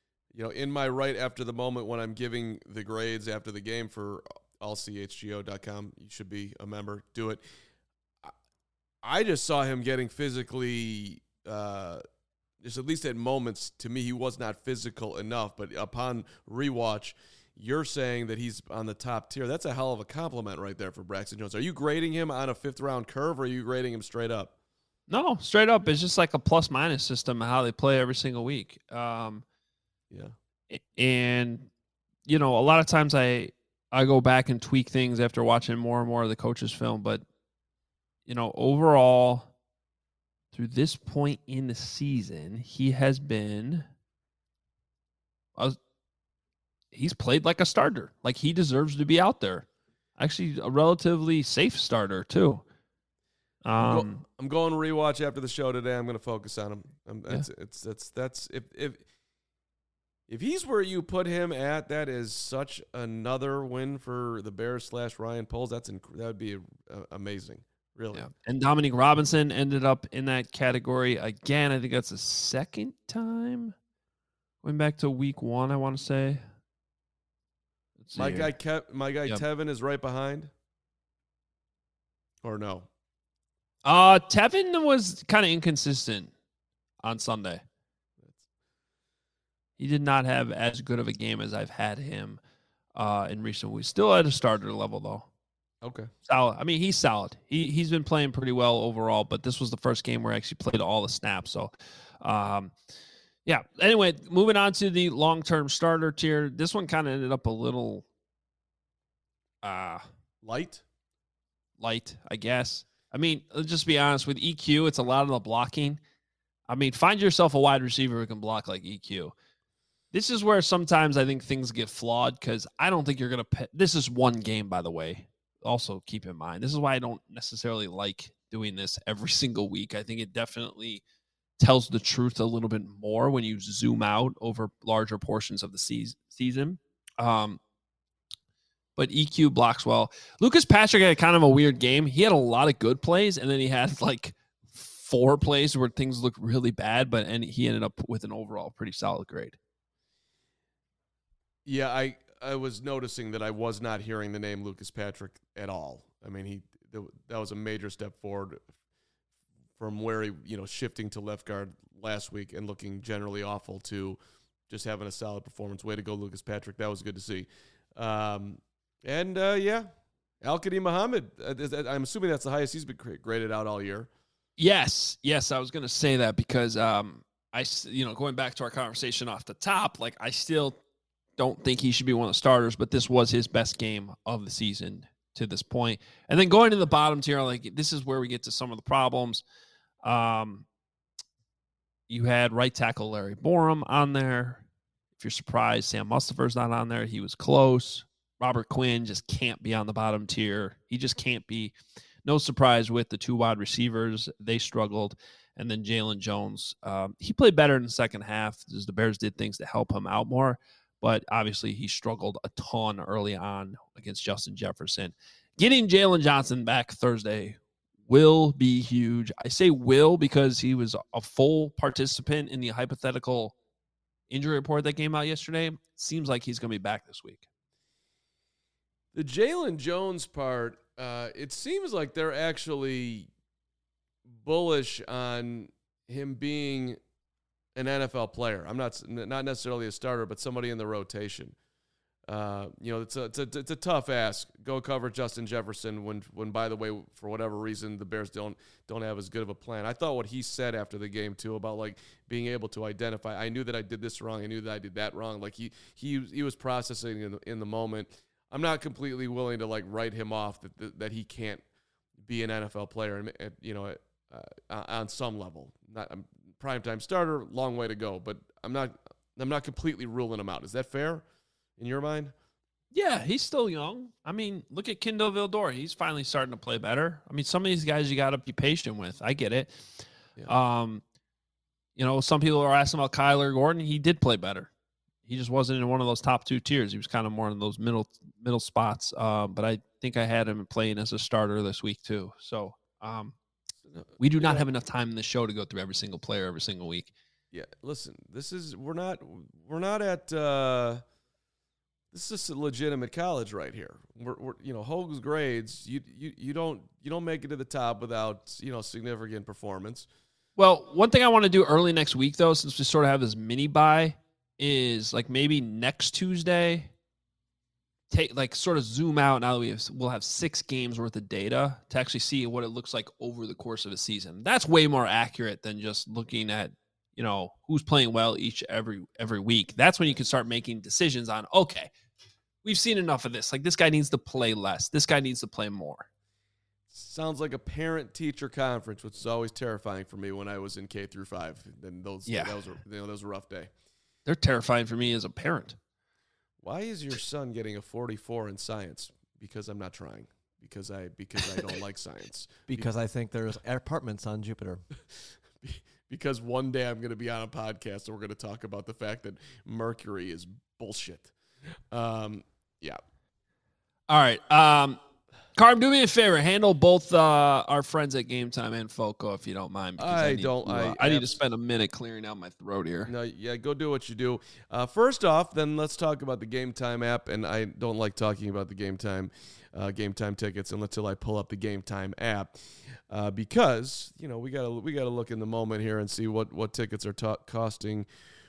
in my right after the moment when I'm giving the grades after the game for allchgo.com, you should be a member, do it. I just saw him getting physically, just at least at moments, to me, he was not physical enough. But upon rewatch, you're saying that he's on the top tier. That's a hell of a compliment right there for Braxton Jones. Are you grading him on a 5th round curve or are you grading him straight up? No, straight up. It's just like a plus-minus system of how they play every single week. Yeah. And, a lot of times I go back and tweak things after watching more and more of the coach's film. But, overall, through this point in the season, he has been he's played like a starter. Like, he deserves to be out there. Actually, a relatively safe starter, too. I'm going to rewatch after the show today. I'm going to focus on him. If he's where you put him at, that is such another win for the Bears / Ryan Poles. That would be amazing, really. Yeah. And Dominique Robinson ended up in that category again. I think that's the second time. Going back to week 1, I want to say. My guy Tevin is right behind. Or no? Tevin was kind of inconsistent on Sunday. He did not have as good of a game as I've had him in recent weeks. Still at a starter level, though. Okay. Solid. I mean, he's solid. He's been playing pretty well overall, but this was the first game where I actually played all the snaps. So, yeah. Anyway, moving on to the long-term starter tier. This one kind of ended up a little light, I guess. I mean, let's just be honest. With EQ, it's a lot of the blocking. I mean, find yourself a wide receiver who can block like EQ. This is where sometimes I think things get flawed because I don't think you're going to – this is one game, by the way. Also keep in mind. This is why I don't necessarily like doing this every single week. I think it definitely tells the truth a little bit more when you zoom out over larger portions of the season. But EQ blocks well. Lucas Patrick had kind of a weird game. He had a lot of good plays, and then he had like 4 plays where things looked really bad, and he ended up with an overall pretty solid grade. Yeah, I was noticing that I was not hearing the name Lucas Patrick at all. I mean, that was a major step forward from where he, shifting to left guard last week and looking generally awful to just having a solid performance. Way to go, Lucas Patrick. That was good to see. Yeah, Al-Qadim Muhammad. I'm assuming that's the highest he's been graded out all year. Yes, I was going to say that because going back to our conversation off the top, like I still don't think he should be one of the starters, but this was his best game of the season to this point. And then going to the bottom tier, like this is where we get to some of the problems. You had right tackle Larry Borum on there. If you're surprised, Sam Mustipher's not on there. He was close. Robert Quinn just can't be on the bottom tier. He just can't be. No surprise with the 2 wide receivers. They struggled. And then Jalen Jones, he played better in the second half as the Bears did things to help him out more. But obviously he struggled a ton early on against Justin Jefferson. Getting Jalen Johnson back Thursday will be huge. I say will because he was a full participant in the hypothetical injury report that came out yesterday. Seems like he's going to be back this week. The Jalen Jones part, it seems like they're actually bullish on him being an NFL player. I'm not necessarily a starter, but somebody in the rotation. It's a tough ask. Go cover Justin Jefferson when by the way, for whatever reason, the Bears don't have as good of a plan. I thought what he said after the game too about like being able to identify. I knew that I did this wrong. I knew that I did that wrong. Like he was processing in the moment. I'm not completely willing to like write him off that he can't be an NFL player on some level. Not primetime starter, long way to go, but I'm not completely ruling him out. Is that fair in your mind? Yeah, he's still young. I mean, look at Kendall Vildor. He's finally starting to play better. I mean, some of these guys you got to be patient with. I get it. Yeah. Some people are asking about Kyler Gordon. He did play better. He just wasn't in one of those top 2 tiers. He was kind of more in those middle spots. But I think I had him playing as a starter this week too. So we do not have enough time in the show to go through every single player every single week. Yeah, listen, we're not at this is a legitimate college right here. We're Hogue's grades. You don't make it to the top without significant performance. Well, one thing I want to do early next week though, since we sort of have this mini bye, is like maybe next Tuesday. Sort of zoom out now that we'll have 6 games worth of data to actually see what it looks like over the course of a season. That's way more accurate than just looking at, who's playing well every week. That's when you can start making decisions on, okay, we've seen enough of this. Like this guy needs to play less. This guy needs to play more. Sounds like a parent-teacher conference, which is always terrifying for me when I was in K through 5. And that was a rough day. They're terrifying for me as a parent. Why is your son getting a 44 in science? Because I'm not trying. because I don't like science. Because I think there's apartments on Jupiter. Because one day I'm going to be on a podcast and we're going to talk about the fact that Mercury is bullshit. Yeah. All right. Carm, do me a favor. Handle both our friends at Game Time and Foco, if you don't mind. Because I need to spend a minute clearing out my throat here. No, yeah, go do what you do. First off, then let's talk about the Game Time app. And I don't like talking about the Game Time tickets until I pull up the Game Time app, because we gotta look in the moment here and see what tickets are costing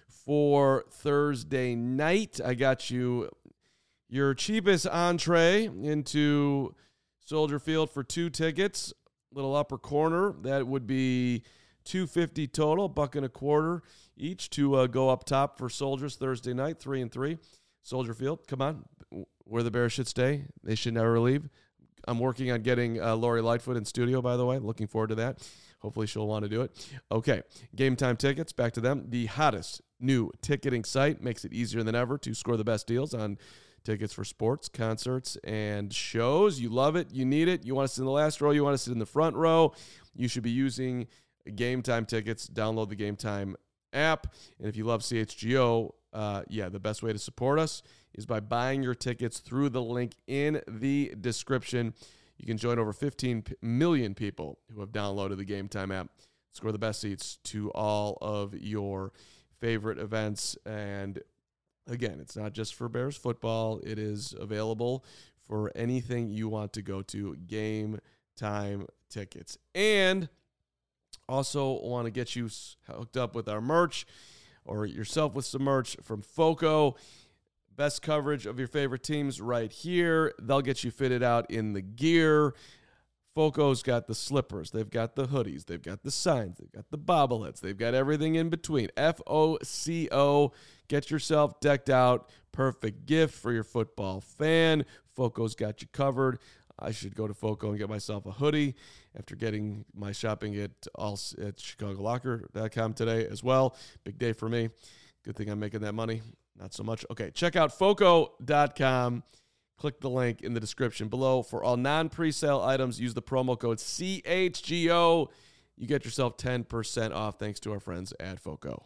for Thursday night. I got you your cheapest entree into Soldier Field for 2 tickets, little upper corner. That would be $250 total, $1.25 each to go up top for Soldiers Thursday night, 3 and 3. Soldier Field, come on, where the Bears should stay. They should never leave. I'm working on getting Lori Lightfoot in studio, by the way. Looking forward to that. Hopefully she'll want to do it. Okay, Game Time tickets, back to them. The hottest new ticketing site makes it easier than ever to score the best deals on tickets for sports, concerts, and shows. You love it. You need it. You want to sit in the last row. You want to sit in the front row. You should be using Game Time tickets. Download the Game Time app. And if you love CHGO, the best way to support us is by buying your tickets through the link in the description. You can join over 15 million people who have downloaded the Game Time app. Score the best seats to all of your favorite events. And again, it's not just for Bears football. It is available for anything you want to go to. Game Time tickets. And also want to get you hooked up with our merch, or yourself with some merch from Foco. Best coverage of your favorite teams right here. They'll get you fitted out in the gear. Foco's got the slippers. They've got the hoodies. They've got the signs. They've got the bobbleheads. They've got everything in between. FOCO. Get yourself decked out. Perfect gift for your football fan. Foco's got you covered. I should go to Foco and get myself a hoodie after getting my shopping at ChicagoLocker.com today as well. Big day for me. Good thing I'm making that money. Not so much. Okay, check out Foco.com. Click the link in the description below. For all non-presale items, use the promo code CHGO. You get yourself 10% off thanks to our friends at Foco.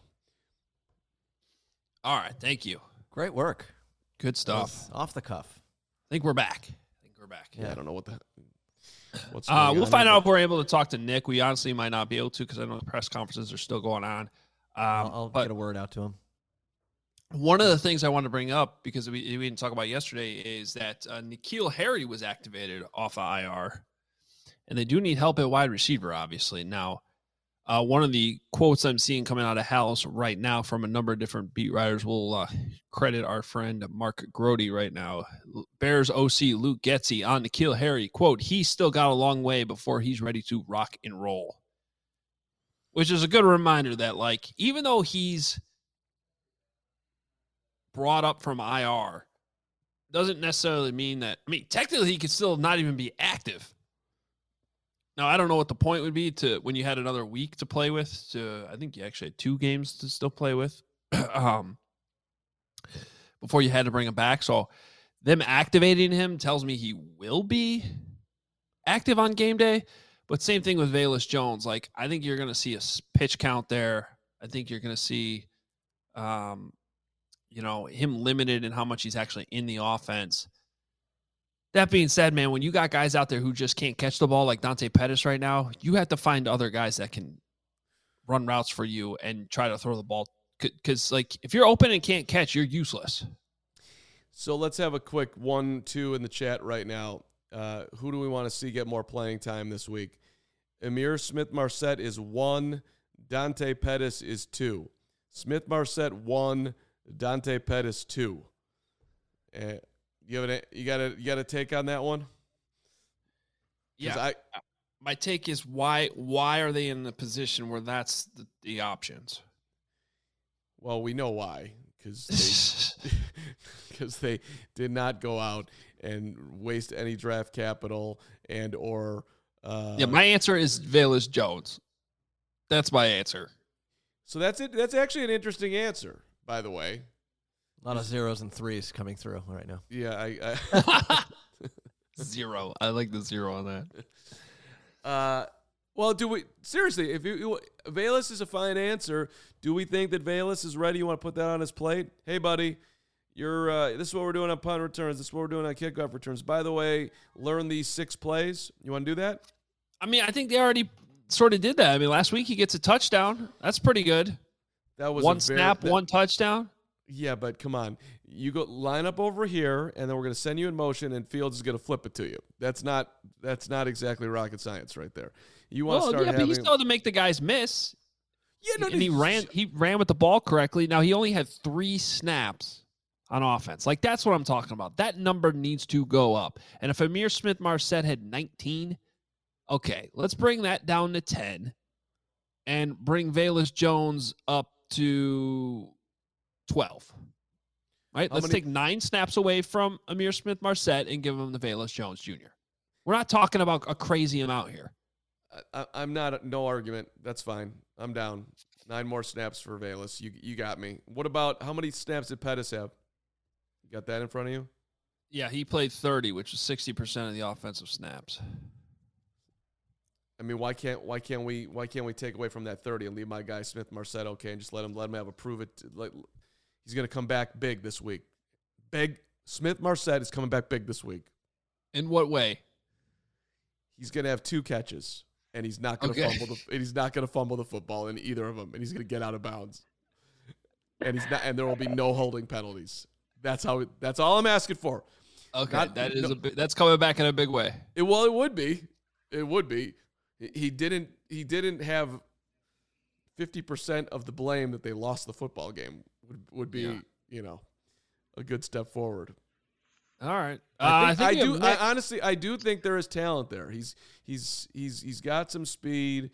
All right, thank you. Great work. Good stuff. Off the cuff. I think we're back. Yeah, I don't know what's going on. We'll find out if we're able to talk to Nick. We honestly might not be able to because I know the press conferences are still going on. I'll get a word out to him. One of the things I wanted to bring up, because we didn't talk about yesterday, is that N'Keal Harry was activated off of IR, and they do need help at wide receiver, obviously. Now, one of the quotes I'm seeing coming out of House right now from a number of different beat writers will credit our friend Mark Grody right now. Bears OC Luke Getsy on N'Keal Harry, quote, "He's still got a long way before he's ready to rock and roll," which is a good reminder that, like, even though he's brought up from IR, doesn't necessarily mean that, technically he could still not even be active. Now, I don't know what the point would be to when you had another week to play with. I think you actually had 2 games to still play with before you had to bring him back. So them activating him tells me he will be active on game day. But same thing with Velus Jones. Like, I think you're going to see a pitch count there. I think you're going to see him limited in how much he's actually in the offense. That being said, man, when you got guys out there who just can't catch the ball like Dante Pettis right now, you have to find other guys that can run routes for you and try to throw the ball. Because, like, if you're open and can't catch, you're useless. So let's have a quick 1-2 in the chat right now. Who do we want to see get more playing time this week? Amir Smith-Marset is 1. Dante Pettis is 2. Smith-Marset 1. Dante Pettis 2. You got a take on that one? Yeah. My take is why are they in the position where that's the options? Well, we know why, because they did not go out and waste any draft capital or. My answer is Velus Jones. That's my answer. So that's it. That's actually an interesting answer, by the way. A lot of 0s and 3s coming through right now. Yeah, 0. I like the 0 on that. Well, do we seriously? If Velus is a fine answer, do we think that Velus is ready? You want to put that on his plate? Hey, buddy, this is what we're doing on punt returns. This is what we're doing on kickoff returns. By the way, learn these 6 plays. You want to do that? I mean, I think they already sort of did that. I mean, last week he gets a touchdown. That's pretty good. That was one snap, one touchdown. Yeah, but come on. You go line up over here, and then we're going to send you in motion, and Fields is going to flip it to you. That's not exactly rocket science right there. You want to start having... but he still had to make the guys miss. Yeah, no, and he ran with the ball correctly. Now, he only had 3 snaps on offense. Like, that's what I'm talking about. That number needs to go up. And if Ihmir Smith-Marsette had 19, okay, let's bring that down to 10 and bring Velus Jones up to 12. Right? Let's take 9 snaps away from Ihmir Smith-Marsette and give him the Velus Jones Jr. We're not talking about a crazy amount here. I'm not, no argument. That's fine. I'm down. 9 more snaps for Velus. You got me. What about, how many snaps did Pettis have? You got that in front of you? Yeah, he played 30, which is 60% of the offensive snaps. I mean, why can't we take away from that 30 and leave my guy Smith-Marsette okay and just let him have a prove it? He's going to come back big this week. Big. Smith-Marsette is coming back big this week. In what way? He's going to have 2 catches, and he's not going to fumble. He's not going to fumble the football in either of them, and he's going to get out of bounds. And and there will be no holding penalties. That's all I'm asking for. Okay, that's coming back in a big way. It would be. It would be. He didn't have 50% of the blame that they lost the football game. Would be, a good step forward. All right. I do think there is talent there. He's got some speed.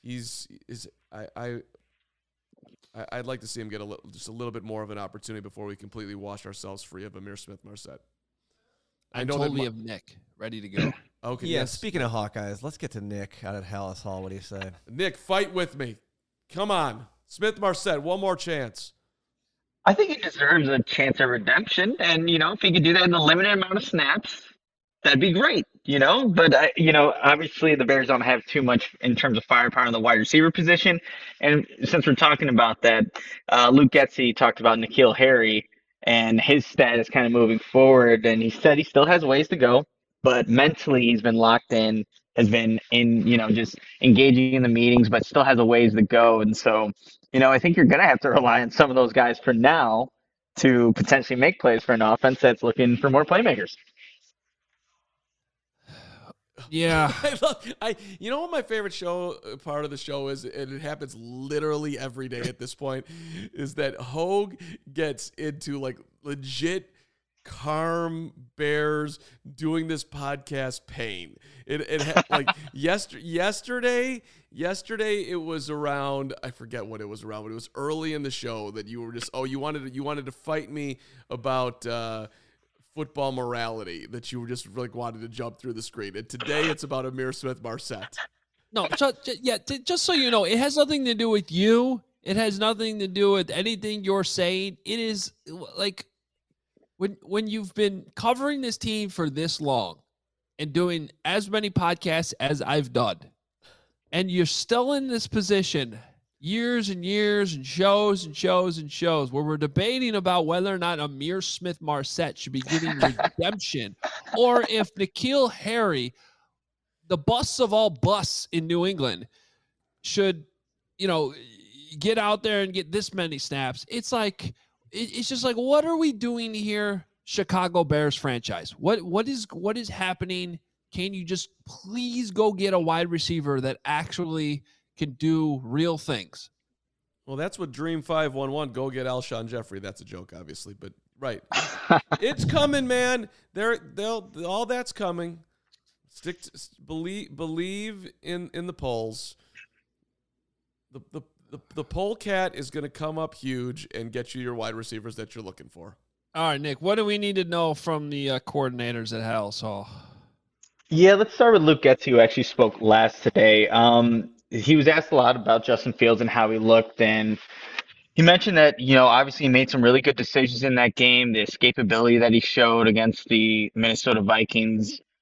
I'd like to see him get just a little bit more of an opportunity before we completely wash ourselves free of Ihmir Smith-Marsette. I totally have Nick ready to go. Okay. Yeah. Yes. Speaking of Hawkeyes, let's get to Nick out at Hallis Hall. What do you say? Nick, fight with me. Come on, Smith-Marsette, one more chance. I think he deserves a chance of redemption, and if he could do that in a limited amount of snaps, that'd be great. But obviously the Bears don't have too much in terms of firepower in the wide receiver position, and since we're talking about that, Luke Getsy talked about N'Keal Harry and his status kind of moving forward, and he said he still has ways to go, but mentally he's been locked in, has been in, just engaging in the meetings, but still has a ways to go, and so. I think you're going to have to rely on some of those guys for now to potentially make plays for an offense that's looking for more playmakers. Yeah. You know what my favorite part of the show is, and it happens literally every day at this point, is that Hogue gets into legit calm Bears doing this podcast pain. Yesterday it was around, I forget what it was around, but it was early in the show that you were just you wanted to fight me about football morality, that you were just wanted to jump through the screen. And today it's about Ihmir Smith-Marsette. No, just so you know, it has nothing to do with you. It has nothing to do with anything you're saying. It is when you've been covering this team for this long and doing as many podcasts as I've done, and you're still in this position years and years and shows and shows and shows where we're debating about whether or not Ihmir Smith-Marsette should be getting redemption, or if N'Keal Harry, the busts of all busts in New England, should, get out there and get this many snaps. It's just like, what are we doing here, Chicago Bears franchise? What is happening? Can you just please go get a wide receiver that actually can do real things? Well, that's what Dream 511, go get Alshon Jeffrey. That's a joke, obviously, but right. It's coming, man. All that's coming. Believe in the polls. The poll cat is going to come up huge and get you your wide receivers that you're looking for. All right, Nick, what do we need to know from the coordinators at Hallis Hall? Yeah, let's start with Luke Getsy, who actually spoke last today. He was asked a lot about Justin Fields and how he looked, and he mentioned that, obviously he made some really good decisions in that game, the escapability that he showed against the Minnesota Vikings.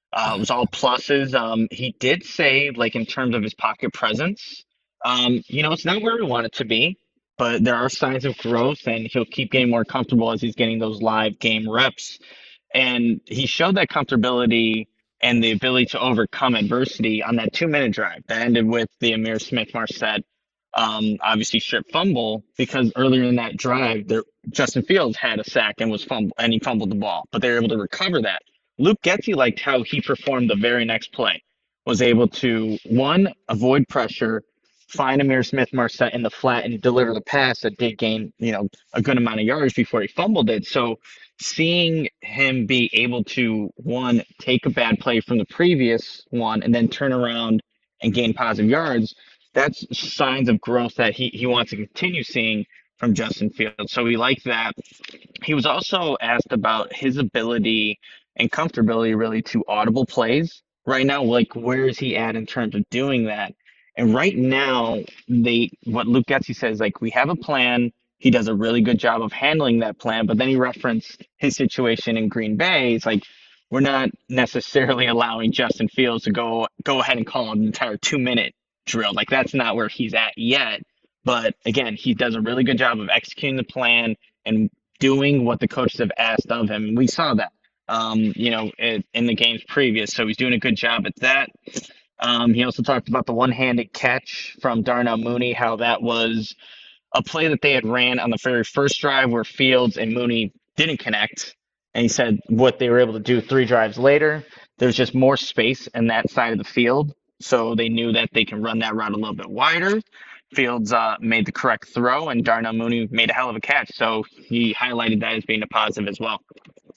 It was all pluses. He did say, like, in terms of his pocket presence, it's not where we want it to be, but there are signs of growth, and he'll keep getting more comfortable as he's getting those live game reps. And he showed that comfortability and the ability to overcome adversity on that 2-minute drive that ended with the Amir Smith Marset obviously strip fumble, because earlier in that drive, Justin Fields had a sack and he fumbled the ball, but they were able to recover that. Luke Getsy liked how he performed the very next play, was able to, one, avoid pressure, find Amir Smith Marset in the flat and deliver the pass that did gain, a good amount of yards before he fumbled it. So seeing him be able to, one, take a bad play from the previous one and then turn around and gain positive yards, that's signs of growth that he wants to continue seeing from Justin Fields. So we like that. He was also asked about his ability and comfortability really to audible plays right now. Like, where is he at in terms of doing that? And right now, what Luke Getsy says, like, we have a plan. He does a really good job of handling that plan. But then he referenced his situation in Green Bay. It's like, we're not necessarily allowing Justin Fields to go ahead and call an entire 2-minute drill. Like, that's not where he's at yet. But again, he does a really good job of executing the plan and doing what the coaches have asked of him. We saw that, in the games previous. So he's doing a good job at that. He also talked about the one-handed catch from Darnell Mooney, how that was a play that they had ran on the very first drive where Fields and Mooney didn't connect. And he said what they were able to do 3 drives later, there's just more space in that side of the field. So they knew that they can run that route a little bit wider. Fields made the correct throw, and Darnell Mooney made a hell of a catch. So he highlighted that as being a positive as well.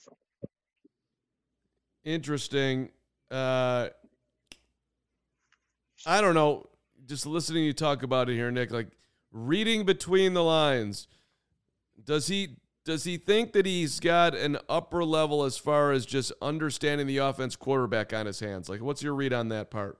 Interesting. I don't know. Just listening to you talk about it here, Nick, like reading between the lines, does he think that he's got an upper level as far as just understanding the offense quarterback on his hands? Like, what's your read on that part?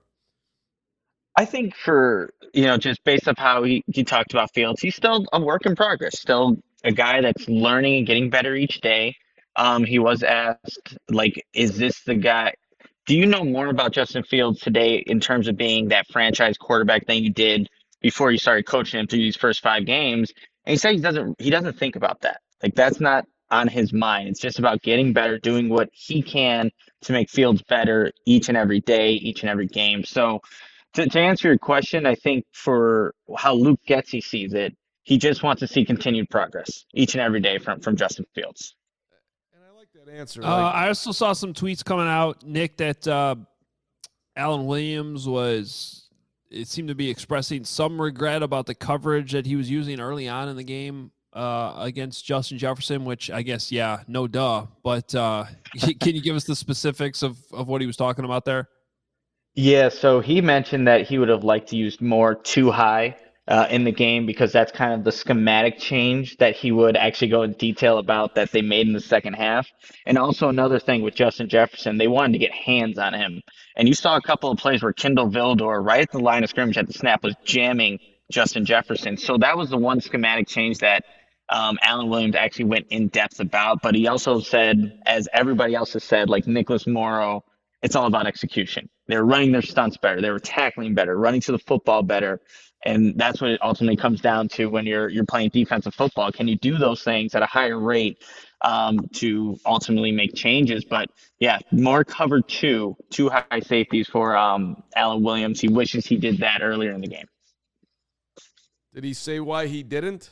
I think just based off how he talked about Fields, he's still a work in progress, still a guy that's learning and getting better each day. He was asked, like, is this the guy? Do you know more about Justin Fields today in terms of being that franchise quarterback than you did before you started coaching him through these first 5 games? And he said he doesn't think about that. Like, that's not on his mind. It's just about getting better, doing what he can to make Fields better each and every day, each and every game. So to answer your question, I think for how Luke Getsy sees it, he just wants to see continued progress each and every day from Justin Fields. And I like that answer. I also saw some tweets coming out, Nick, that Alan Williams it seemed to be expressing some regret about the coverage that he was using early on in the game against Justin Jefferson, which I guess, yeah, no duh. But can you give us the specifics of what he was talking about there? Yeah, so he mentioned that he would have liked to use more too high in the game, because that's kind of the schematic change that he would actually go in detail about that they made in the second half. And also another thing with Justin Jefferson, they wanted to get hands on him. And you saw a couple of plays where Kindle Vildor, right at the line of scrimmage at the snap, was jamming Justin Jefferson. So that was the one schematic change that Alan Williams actually went in depth about. But he also said, as everybody else has said, like Nicholas Morrow, it's all about execution. They were running their stunts better. They were tackling better, running to the football better. And that's what it ultimately comes down to when you're playing defensive football. Can you do those things at a higher rate to ultimately make changes? But yeah, more cover two high safeties for Alan Williams. He wishes he did that earlier in the game. Did he say why he didn't?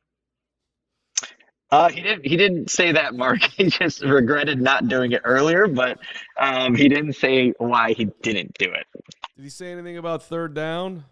He didn't say that, Mark. He just regretted not doing it earlier, but he didn't say why he didn't do it. Did he say anything about third down?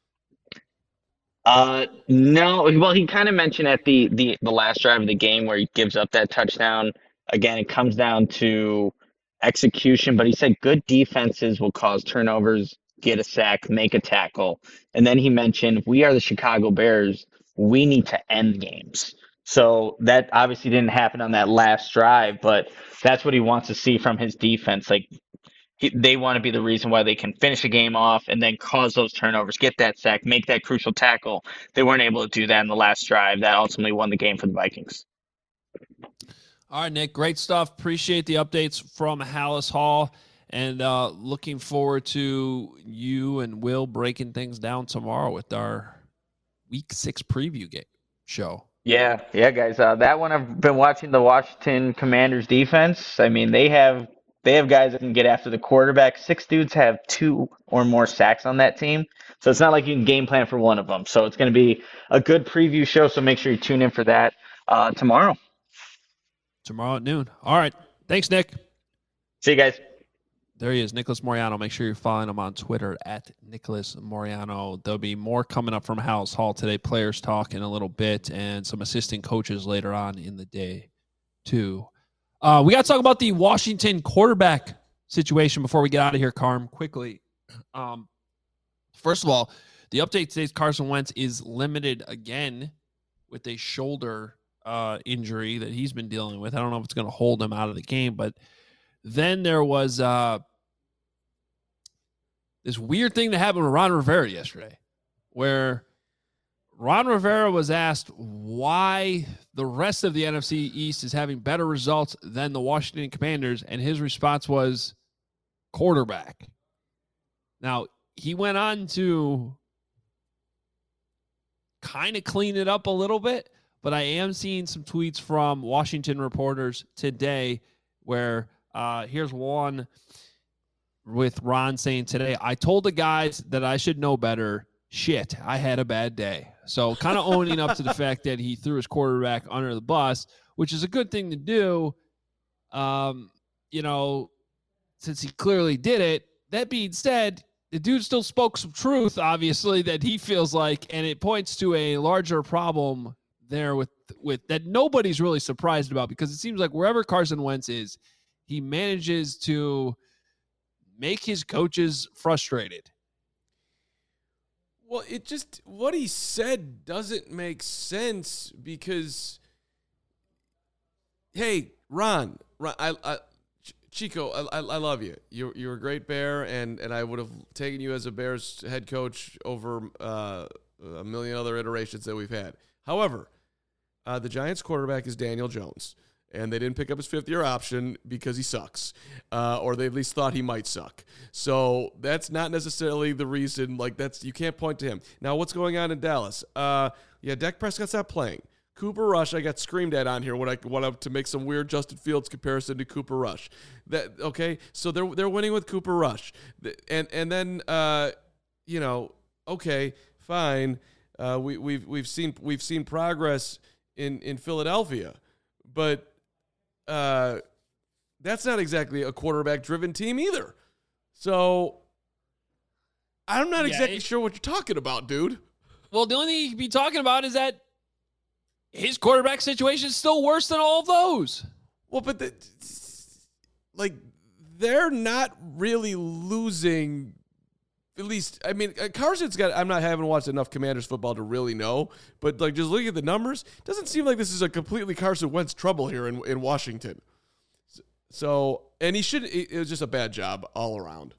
No. Well, he kind of mentioned at the last drive of the game where he gives up that touchdown. Again, it comes down to execution, but he said good defenses will cause turnovers, get a sack, make a tackle. And then he mentioned, we are the Chicago Bears. We need to end games. So that obviously didn't happen on that last drive, but that's what he wants to see from his defense. Like, they want to be the reason why they can finish a game off and then cause those turnovers, get that sack, make that crucial tackle. They weren't able to do that in the last drive. That ultimately won the game for the Vikings. All right, Nick, great stuff. Appreciate the updates from Halas Hall. And looking forward to you and Will breaking things down tomorrow with our Week 6 preview game show. Yeah, guys. That one I've been watching the Washington Commanders defense. I mean, they have guys that can get after the quarterback. 6 dudes have 2 or more sacks on that team, so it's not like you can game plan for one of them. So it's going to be a good preview show. So make sure you tune in for that tomorrow. Tomorrow at noon. All right. Thanks, Nick. See you guys. There he is, Nicholas Moriano. Make sure you're following him on Twitter at Nicholas Moriano. There'll be more coming up from House Hall today. Players talk in a little bit and some assistant coaches later on in the day, too. We got to talk about the Washington quarterback situation before we get out of here, Carm, quickly. First of all, the update today is Carson Wentz is limited again with a shoulder injury that he's been dealing with. I don't know if it's going to hold him out of the game, but then there was this weird thing that happened with Ron Rivera yesterday, where Ron Rivera was asked why the rest of the NFC East is having better results than the Washington Commanders, and his response was quarterback. Now, he went on to kind of clean it up a little bit, but I am seeing some tweets from Washington reporters today where here's one with Ron saying today, I told the guys that I should know better. Shit, I had a bad day. So kind of owning up to the fact that he threw his quarterback under the bus, which is a good thing to do, since he clearly did it. That being said, the dude still spoke some truth, obviously, that he feels like, and it points to a larger problem there with that nobody's really surprised about, because it seems like wherever Carson Wentz is, he manages to make his coaches frustrated. Well, what he said doesn't make sense because, hey, Ron, Chico, I love you. You're a great Bear, and I would have taken you as a Bears head coach over a million other iterations that we've had. However, the Giants quarterback is Daniel Jones, and they didn't pick up his fifth-year option because he sucks, or they at least thought he might suck. So that's not necessarily the reason. You can't point to him. Now, what's going on in Dallas? Dak Prescott's not playing. Cooper Rush, I got screamed at on here when I went up to make some weird Justin Fields comparison to Cooper Rush. So they're winning with Cooper Rush, and then okay, fine. We've seen progress in Philadelphia, but that's not exactly a quarterback-driven team either. So I'm not exactly sure what you're talking about, dude. Well, the only thing you could be talking about is that his quarterback situation is still worse than all of those. Well, but they're not really losing. At least, I mean, Carson's got. Haven't watched enough Commanders football to really know, but just looking at the numbers, it doesn't seem like this is a completely Carson Wentz trouble here in Washington. So, and it was just a bad job all around.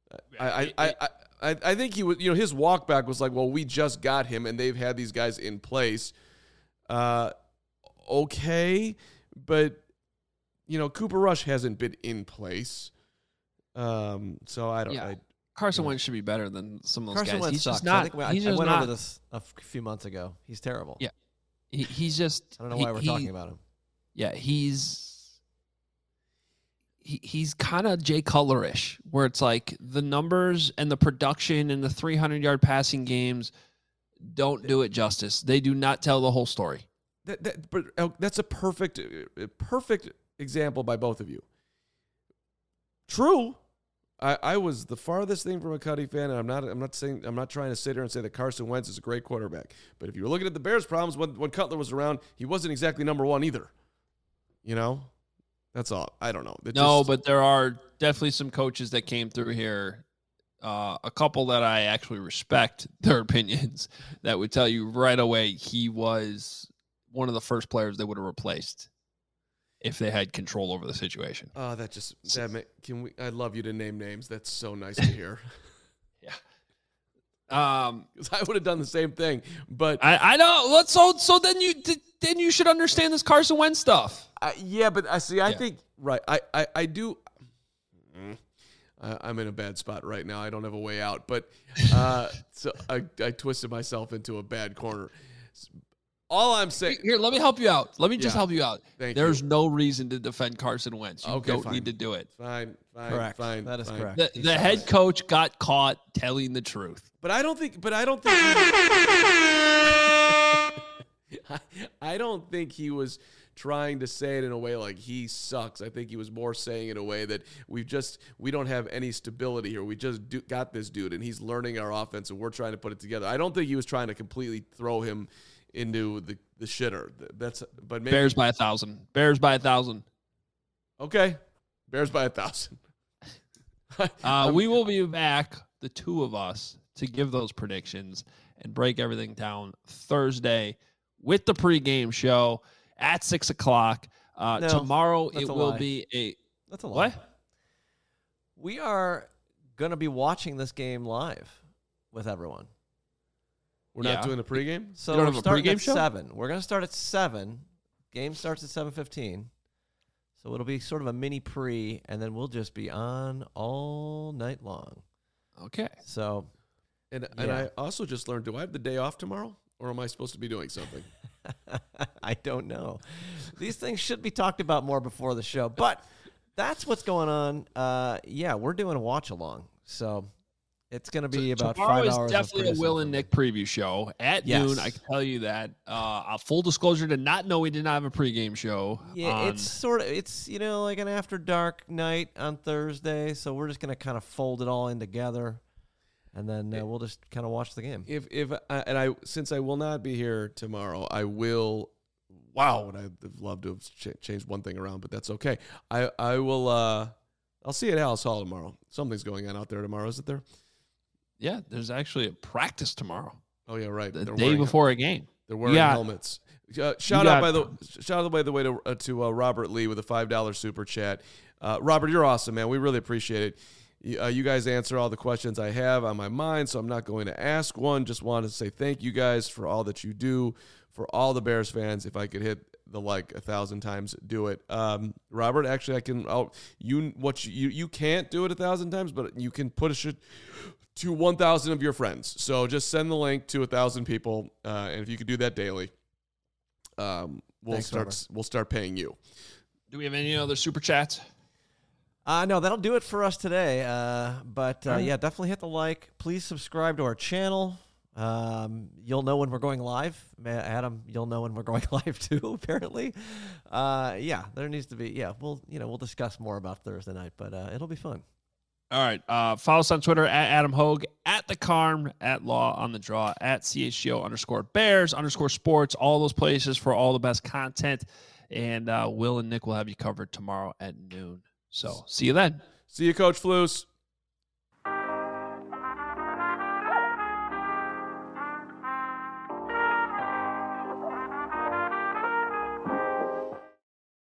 I think he was. His walk back was like, well, we just got him, and they've had these guys in place. Okay, but Cooper Rush hasn't been in place. So I don't. Yeah. Carson Wentz should be better than some of those Carson guys. Wentz He's sucks. just not. I went over this a few months ago. He's terrible. Yeah, he's just. I don't know why we're talking about him. Yeah, he's kind of Jay Cutler-ish, where it's like the numbers and the production and the 300-yard passing games don't do it justice. They do not tell the whole story. But that's a perfect example by both of you. True. I was the farthest thing from a Cuddy fan, and I'm not trying to sit here and say that Carson Wentz is a great quarterback. But if you were looking at the Bears' problems when Cutler was around, he wasn't exactly number one either. That's all. I don't know. But there are definitely some coaches that came through here, a couple that I actually respect their opinions, that would tell you right away he was one of the first players they would have replaced if they had control over the situation. Oh, I'd love you to name names. That's so nice to hear. Yeah. Because I would have done the same thing. But I know. So then you should understand this Carson Wentz stuff. Yeah, but I think right. I do. I'm in a bad spot right now. I don't have a way out, but so I twisted myself into a bad corner. All I'm saying Here, let me help you out. Let me just Yeah. help you out. Thank There's you. no reason to defend Carson Wentz. You Okay, don't fine. need to do it. Fine. Correct. That is correct. The head coach got caught telling the truth. But I don't think. I don't think he was trying to say it in a way like he sucks. I think he was more saying it in a way that we don't have any stability here. We just got this dude, and he's learning our offense, and we're trying to put it together. I don't think he was trying to completely throw him into the shitter. But maybe Bears by 1,000. Bears by 1,000. okay. Bears by 1,000. We will be back, the two of us, to give those predictions and break everything down Thursday with the pregame show at 6 o'clock. Tomorrow that's it a will lie. be a That's a lie. what? We are going to be watching this game live with everyone. We're not Yeah. doing a pregame? So You don't we're have a starting pregame at show? 7. We're going to start at 7. Game starts at 7:15. So it'll be sort of a mini pre, and then we'll just be on all night long. Okay. So And Yeah. I also just learned, do I have the day off tomorrow? Or am I supposed to be doing something? I don't know. These things should be talked about more before the show, but that's what's going on. Yeah, we're doing a watch along. So it's going to be about Tomorrow 5 is hours. definitely a of Will and Nick preview show at Yes. noon. I can tell you that. Full disclosure, did not know we did not have a pregame show. Yeah, on- it's like an after dark night on Thursday. So we're just going to kind of fold it all in together, and then we'll just kind of watch the game. Since I will not be here tomorrow, I will. Wow, would I have loved to have changed one thing around, but that's okay. I will. I'll see you at Alice Hall tomorrow. Something's going on out there tomorrow, isn't there? Yeah, there's actually a practice tomorrow, Oh yeah, right. the They're day wearing- before a game. They're wearing Yeah. helmets. Shout out by the way to Robert Lee with a $5 super chat. Robert, you're awesome, man. We really appreciate it. You guys answer all the questions I have on my mind, so I'm not going to ask one. Just wanted to say thank you guys for all that you do for all the Bears fans. If I could hit the 1,000 times, do it. Robert, actually, I can. You can't do it 1,000 times, but you can push it to 1,000 of your friends. So just send the link to 1,000 people, and if you could do that daily, we'll start paying you. Do we have any other super chats? No, that'll do it for us today. But yeah, definitely hit the like. Please subscribe to our channel. You'll know when we're going live. Adam, you'll know when we're going live too, apparently. Yeah, there needs to be, we'll discuss more about Thursday night, but it'll be fun. All right. Follow us on Twitter at Adam Hogue, at the Carm, at Law on the Draw, at CHGO_Bears_sports, all those places for all the best content. And Will and Nick will have you covered tomorrow at noon. So see you then. See you, Coach Flus.